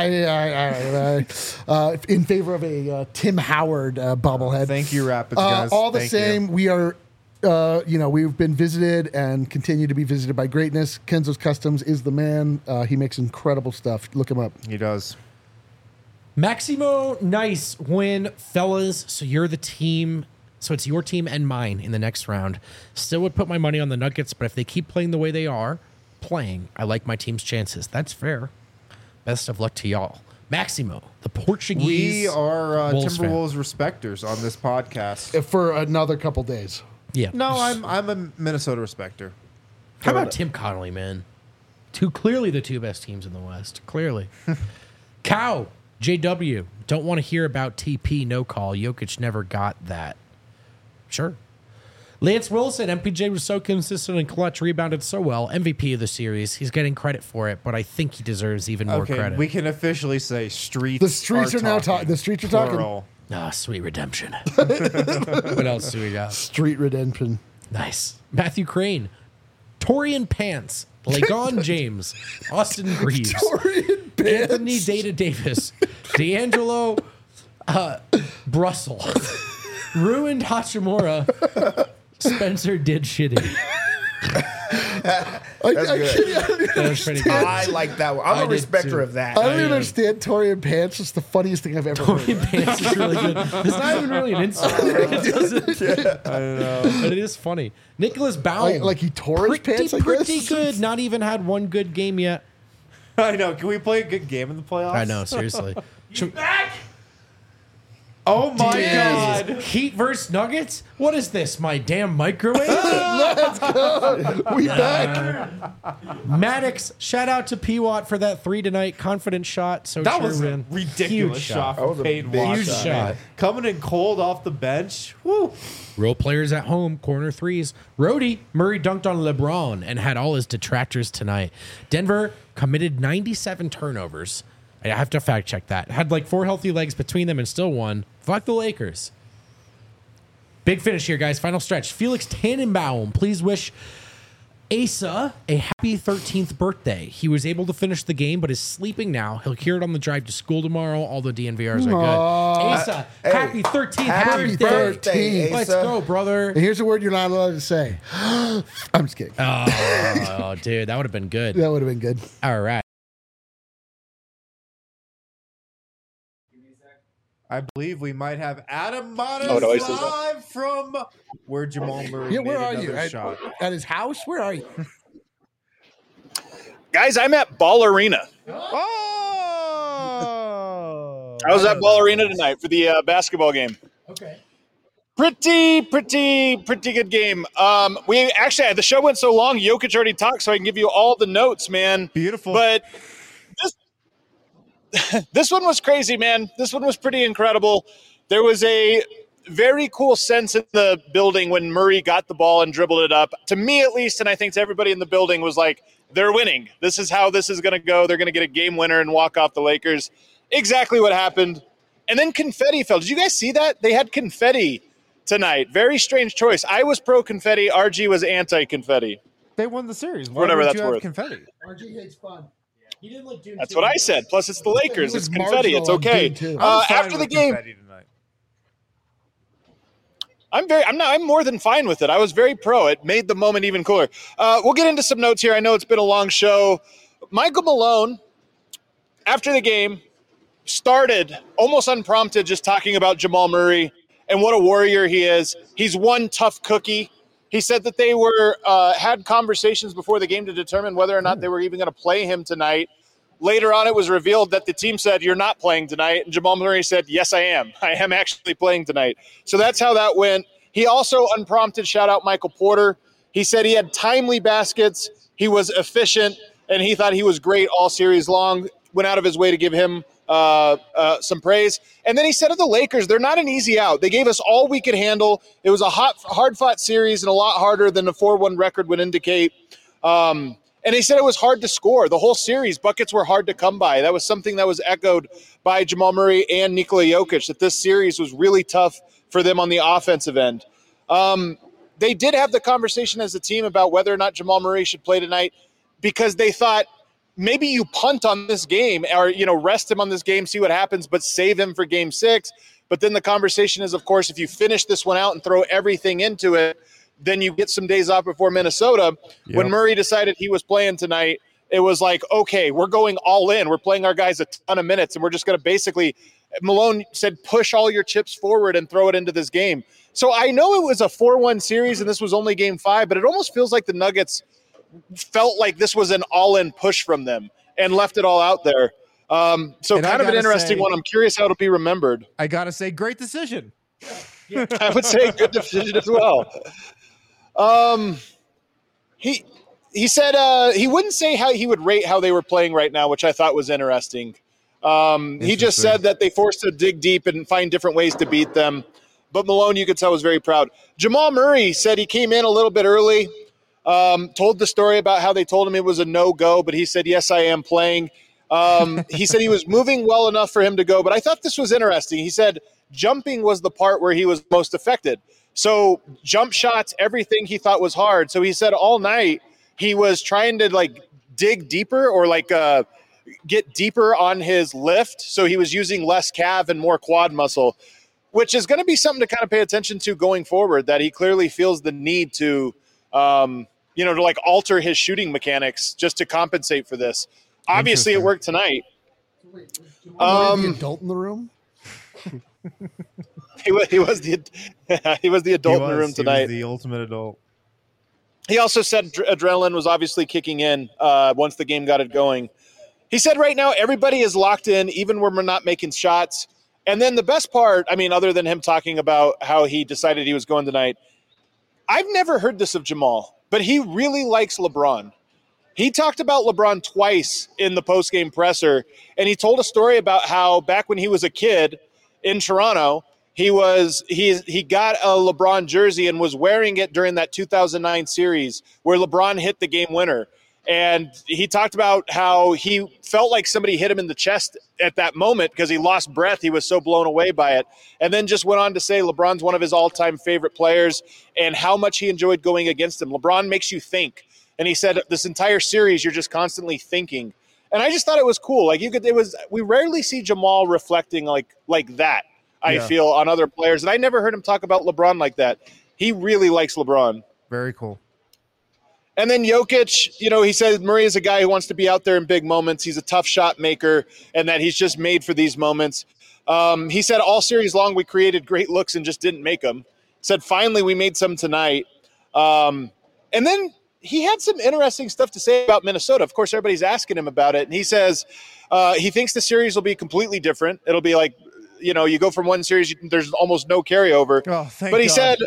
in favor of a Tim Howard bobblehead. Thank you, Rapids guys. All the Thank same, you. we are, we've been visited and continue to be visited by greatness. Kenzo's Customs is the man. He makes incredible stuff. Look him up. He does. Maximo, nice win, fellas. So you're the team. So it's your team and mine in the next round. Still would put my money on the Nuggets, but if they keep playing the way they are playing, I like my team's chances. That's fair. Best of luck to y'all. Maximo, the Portuguese. We are Wolves fan. Timberwolves respecters on this podcast. For another couple days. Yeah. No, I'm a Minnesota respecter. How about Tim Connolly, man? Clearly the two best teams in the West. Clearly. Cow, JW, don't want to hear about TP, no call. Jokic never got that. Sure. Lance Wilson, MPJ was so consistent and clutch, rebounded so well. MVP of the series. He's getting credit for it, but I think he deserves even more credit. We can officially say streets. The streets are now talking. The streets are talking. Ah, sweet redemption. What else do we got? Street redemption. Nice. Matthew Crane, Torian Pants, Lagon James, Austin Greaves, Anthony Data Davis, D'Angelo Brussel, Ruined Hachimura, Spencer did shitty. That's good. That was pretty good. I like that one. I'm I a did respecter too. of that. I don't even understand Torian Pants. It's the funniest thing I've ever heard. Torian Pants is really good. It's not even really an insult. It doesn't. I don't know. But it is funny. Nicholas Baum. Like he tore his pants, I guess? Pretty good. Not even had one good game yet. I know. Can we play a good game in the playoffs? I know, seriously. Back! Oh my Yes. God. Heat versus Nuggets? What is this, my damn microwave? Let's go. We back. Maddox, shout out to P-Watt for that 3 tonight confident shot. So That sure was a win. ridiculous Huge shot That was from a Peyton big Watson. Huge shot. Coming in cold off the bench. Woo. Role players at home, corner threes. Rhodey, Murray dunked on LeBron and had all his detractors tonight. Denver committed 97 turnovers. I have to fact check that. Had like 4 healthy legs between them and still won. Fuck the Lakers. Big finish here, guys. Final stretch. Felix Tannenbaum, please wish Asa a happy 13th birthday. He was able to finish the game, but is sleeping now. He'll hear it on the drive to school tomorrow. All the DNVRs are good. Asa, happy 13th Happy birthday. birthday, Let's Asa. go, brother. And here's a word you're not allowed to say. I'm just kidding. Oh, dude, that would have been good. That would have been good. All right. I believe we might have Adam Matas Oh, no, he says that. live from where Jamal Murray Yeah, where made are you? another shot. At his house? Where are you? Guys, I'm at Ball Arena. Oh! I was at Ball Arena tonight for the basketball game. Okay. Pretty good game. We actually, the show went so long, Jokic already talked, so I can give you all the notes, man. Beautiful. But this one was crazy, man. This one was pretty incredible. There was a very cool sense in the building when Murray got the ball and dribbled it up. To me, at least, and I think to everybody in the building, was like, they're winning. This is how this is going to go. They're going to get a game winner and walk off the Lakers. Exactly what happened. And then confetti fell. Did you guys see that? They had confetti tonight. Very strange choice. I was pro confetti. RG was anti confetti. They won the series. Why Whatever would that's you have worth. confetti? RG hates fun. He didn't like Dune That's 2. what I said. Plus, it's the Lakers. He was It's confetti. It's marginal on okay. Dune 2. I'm fine After the with game, confetti tonight. I'm more than fine with it. I was very pro. It made the moment even cooler. We'll get into some notes here. I know it's been a long show. Michael Malone, after the game, started almost unprompted just talking about Jamal Murray and what a warrior he is. He's one tough cookie. He said that they were had conversations before the game to determine whether or not they were even going to play him tonight. Later on, it was revealed that the team said, "You're not playing tonight." And Jamal Murray said, "Yes, I am. I am actually playing tonight." So that's how that went. He also, unprompted, shout out Michael Porter. He said he had timely baskets. He was efficient, and he thought he was great all series long. Went out of his way to give him some praise. And then he said of the Lakers, they're not an easy out. They gave us all we could handle. It was a hard-fought series and a lot harder than the 4-1 record would indicate. And he said it was hard to score. The whole series, buckets were hard to come by. That was something that was echoed by Jamal Murray and Nikola Jokic, that this series was really tough for them on the offensive end. They did have the conversation as a team about whether or not Jamal Murray should play tonight because they thought maybe you punt on this game or, rest him on this game, see what happens, but save him for game 6. But then the conversation is, of course, if you finish this one out and throw everything into it, then you get some days off before Minnesota. Yep. When Murray decided he was playing tonight, it was like, okay, we're going all in. We're playing our guys a ton of minutes, and we're just going to basically – Malone said push all your chips forward and throw it into this game. So I know it was a 4-1 series, and this was only game 5, but it almost feels like the Nuggets felt like this was an all-in push from them and left it all out there. So kind of an interesting one. I'm curious how it'll be remembered. I got to say, great decision. I would say good decision as well. he said he wouldn't say how he would rate how they were playing right now, which I thought was interesting. He just said that they forced to dig deep and find different ways to beat them. But Malone, you could tell, was very proud. Jamal Murray said he came in a little bit early, told the story about how they told him it was a no-go, but he said, yes, I am playing. He said he was moving well enough for him to go, but I thought this was interesting. He said jumping was the part where he was most affected. So jump shots, everything he thought was hard. So he said all night he was trying to like dig deeper or like get deeper on his lift. So he was using less calf and more quad muscle, which is going to be something to kind of pay attention to going forward, that he clearly feels the need to, to like alter his shooting mechanics just to compensate for this. Obviously, it worked tonight. The adult in the room? He was the adult in the room tonight. He was the ultimate adult. He also said adrenaline was obviously kicking in once the game got it going. He said right now everybody is locked in, even when we're not making shots. And then the best part, I mean, other than him talking about how he decided he was going tonight, I've never heard this of Jamal, but he really likes LeBron. He talked about LeBron twice in the postgame presser, and he told a story about how back when he was a kid in Toronto, he got a LeBron jersey and was wearing it during that 2009 series where LeBron hit the game winner. And he talked about how he felt like somebody hit him in the chest at that moment because he lost breath. He was so blown away by it. And then just went on to say LeBron's one of his all-time favorite players and how much he enjoyed going against him. LeBron makes you think. And he said this entire series, you're just constantly thinking. And I just thought it was cool. Like we rarely see Jamal reflecting like that, I feel, on other players. And I never heard him talk about LeBron like that. He really likes LeBron. Very cool. And then Jokic, he said Murray is a guy who wants to be out there in big moments. He's a tough shot maker and that he's just made for these moments. He said all series long we created great looks and just didn't make them. Said finally we made some tonight. And then he had some interesting stuff to say about Minnesota. Of course, everybody's asking him about it. And he says he thinks the series will be completely different. It'll be like, you go from one series, there's almost no carryover. Oh, thank but he God. said,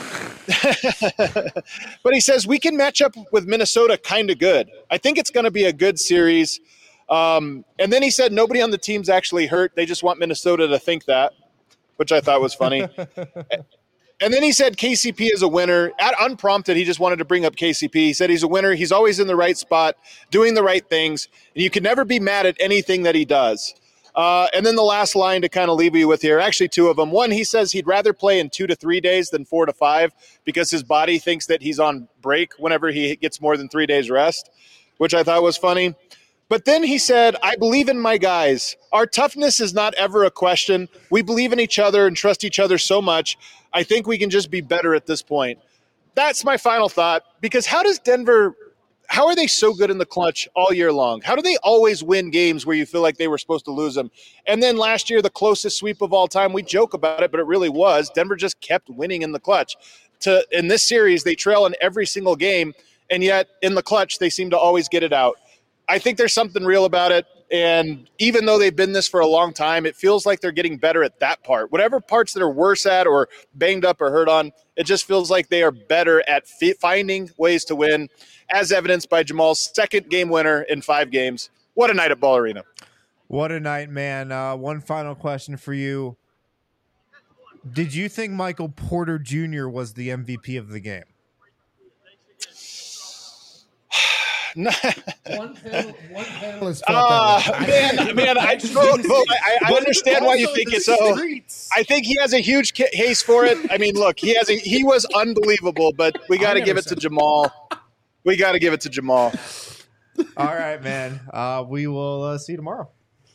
but he says we can match up with Minnesota kind of good. I think it's going to be a good series. And then he said nobody on the team's actually hurt. They just want Minnesota to think that, which I thought was funny. And then he said KCP is a winner. Unprompted, he just wanted to bring up KCP. He said he's a winner. He's always in the right spot, doing the right things, and you can never be mad at anything that he does. And then the last line to kind of leave you with here, actually two of them. One, he says he'd rather play in 2 to 3 days than 4 to 5 because his body thinks that he's on break whenever he gets more than 3 days rest, which I thought was funny. But then he said, I believe in my guys. Our toughness is not ever a question. We believe in each other and trust each other so much. I think we can just be better at this point. That's my final thought, because how are they so good in the clutch all year long? How do they always win games where you feel like they were supposed to lose them? And then last year, the closest sweep of all time, we joke about it, but it really was. Denver just kept winning in the clutch. In this series, they trail in every single game, and yet in the clutch, they seem to always get it out. I think there's something real about it. And even though they've been this for a long time, it feels like they're getting better at that part. Whatever parts that are worse at or banged up or hurt on, it just feels like they are better at finding ways to win, as evidenced by Jamal's second game winner in 5 games. What a night at Ball Arena. What a night, man. One final question for you. Did you think Michael Porter Jr. was the MVP of the game? One panelist felt that way. Man, I understand why you think it's so. I think he has a huge case for it. I mean, look, he was unbelievable, but we got to give it to Jamal. We got to give it to Jamal. All right, man. We will see you tomorrow.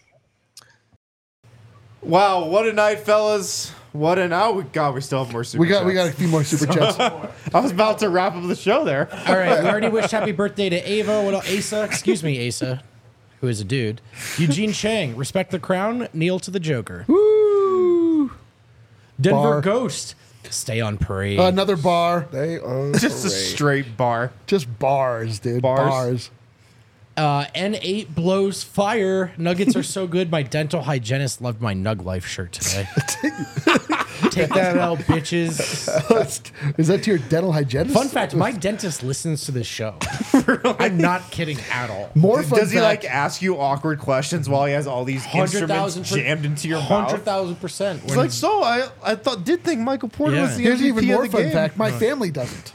Wow, what a night, fellas. What an God, we still have more super chats. We got a few more super chats. I was about to wrap up the show there. All right, we already wished happy birthday to Ava. What else? Asa? Excuse me, Asa, who is a dude. Eugene Chang, respect the crown, kneel to the Joker. Woo! Denver Bar. Ghost, stay on parade. Another bar. They are Just a straight bar. just bars, dude. Bars. N8 blows fire. Nuggets are so good. My dental hygienist loved my Nug Life shirt today. Take that out, bitches. Is that to your dental hygienist? Fun fact, my dentist listens to this show. I'm not kidding at all. More fun Does he fact, like ask you awkward questions while he has all these instruments 100,000% jammed into your mouth? 100,000%. It's like, so I did think Michael Porter Yeah. was the Here's MVP even more of the fun game. fact. My family doesn't.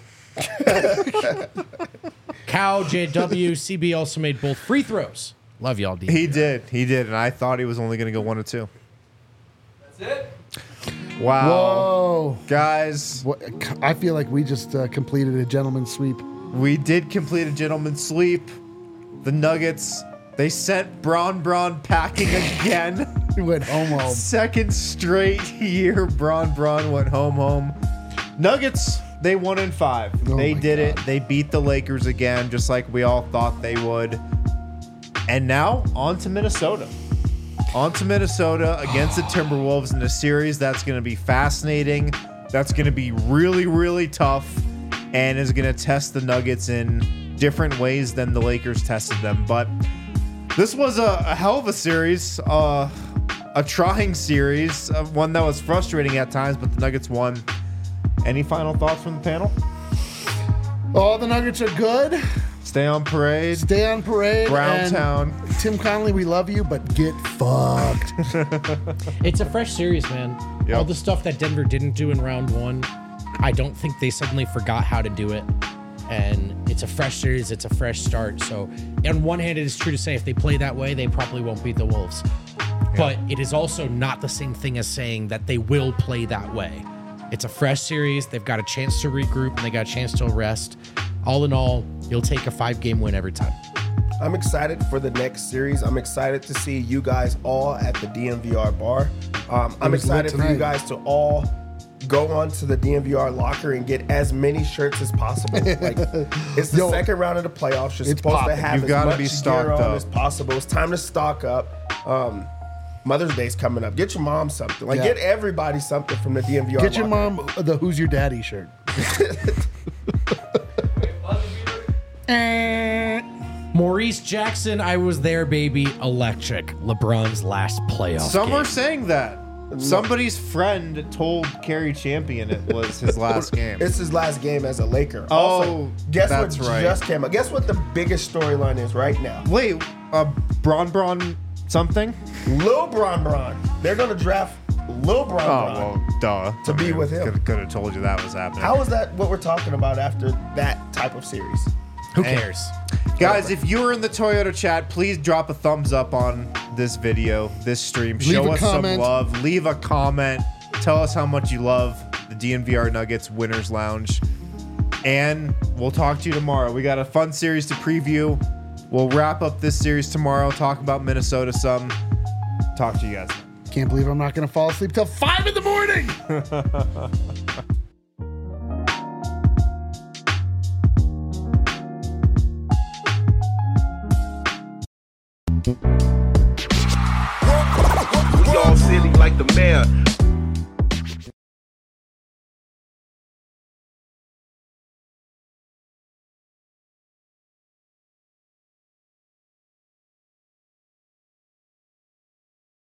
Cow, JW, CB also made both free throws. Love y'all, D. He did, and I thought he was only going to go 1 or 2. That's it. Wow, Whoa. guys, What, I feel like we just completed a gentleman's sweep. we did complete a gentleman's sweep. The Nuggets, they sent Bron packing again. We went home. Second straight year, Bron went home. Nuggets, they won in 5. Oh They my did it. God. They beat the Lakers again, just like we all thought they would. And now on to Minnesota. On to Minnesota against the Timberwolves in a series that's going to be fascinating. That's going to be really, really tough, and is going to test the Nuggets in different ways than the Lakers tested them. But this was a hell of a series, a trying series, one that was frustrating at times, but the Nuggets won. Any final thoughts from the panel? All the Nuggets are good. Stay on parade. Stay on parade. Brown and Town. Tim Connolly, we love you, but get fucked. It's a fresh series, man. Yep. All the stuff that Denver didn't do in round 1, I don't think they suddenly forgot how to do it. And it's a fresh series. It's a fresh start. So on one hand, it is true to say if they play that way, they probably won't beat the Wolves. But it is also not the same thing as saying that they will play that way. It's a fresh series. They've got a chance to regroup and they got a chance to rest. All in all, you'll take a 5-game win every time. I'm excited for the next series. I'm excited to see you guys all at the DNVR bar. I'm was lit excited for you tonight. guys to all go on to the DNVR locker and get as many shirts as possible. Like, it's the Yo, second round of the playoffs. You're it's supposed popping. to have You've as gotta much be gear stocked on up. as possible. It's time to stock up. Mother's Day's coming up. Get your mom something. Like, Yeah. get everybody something from the DNVR Get your locker. mom the Who's Your Daddy shirt. Maurice Jackson, I was there, baby. Electric. LeBron's last playoff Some game. are saying that. Somebody's friend told Kerry Champion it was his last game. It's his last game as a Laker. Oh, Also, guess that's what right. just came out? Guess what the biggest storyline is right now? Wait, Bron something? Lil Bron. They're going to draft Lil Bron. Oh, well, duh. To be with him. Could have told you that was happening. How is that what we're talking about after that type of series? Who Hey. cares? Guys, if you're in the Toyota chat, please drop a thumbs up on this video, this stream. Leave Show a us comment. some love. Leave a comment. Tell us how much you love the DNVR Nuggets Winners Lounge. And we'll talk to you tomorrow. We got a fun series to preview. We'll wrap up this series tomorrow, talk about Minnesota some. Talk to you guys. Can't believe I'm not going to fall asleep till 5 in the morning. We all silly like the mayor.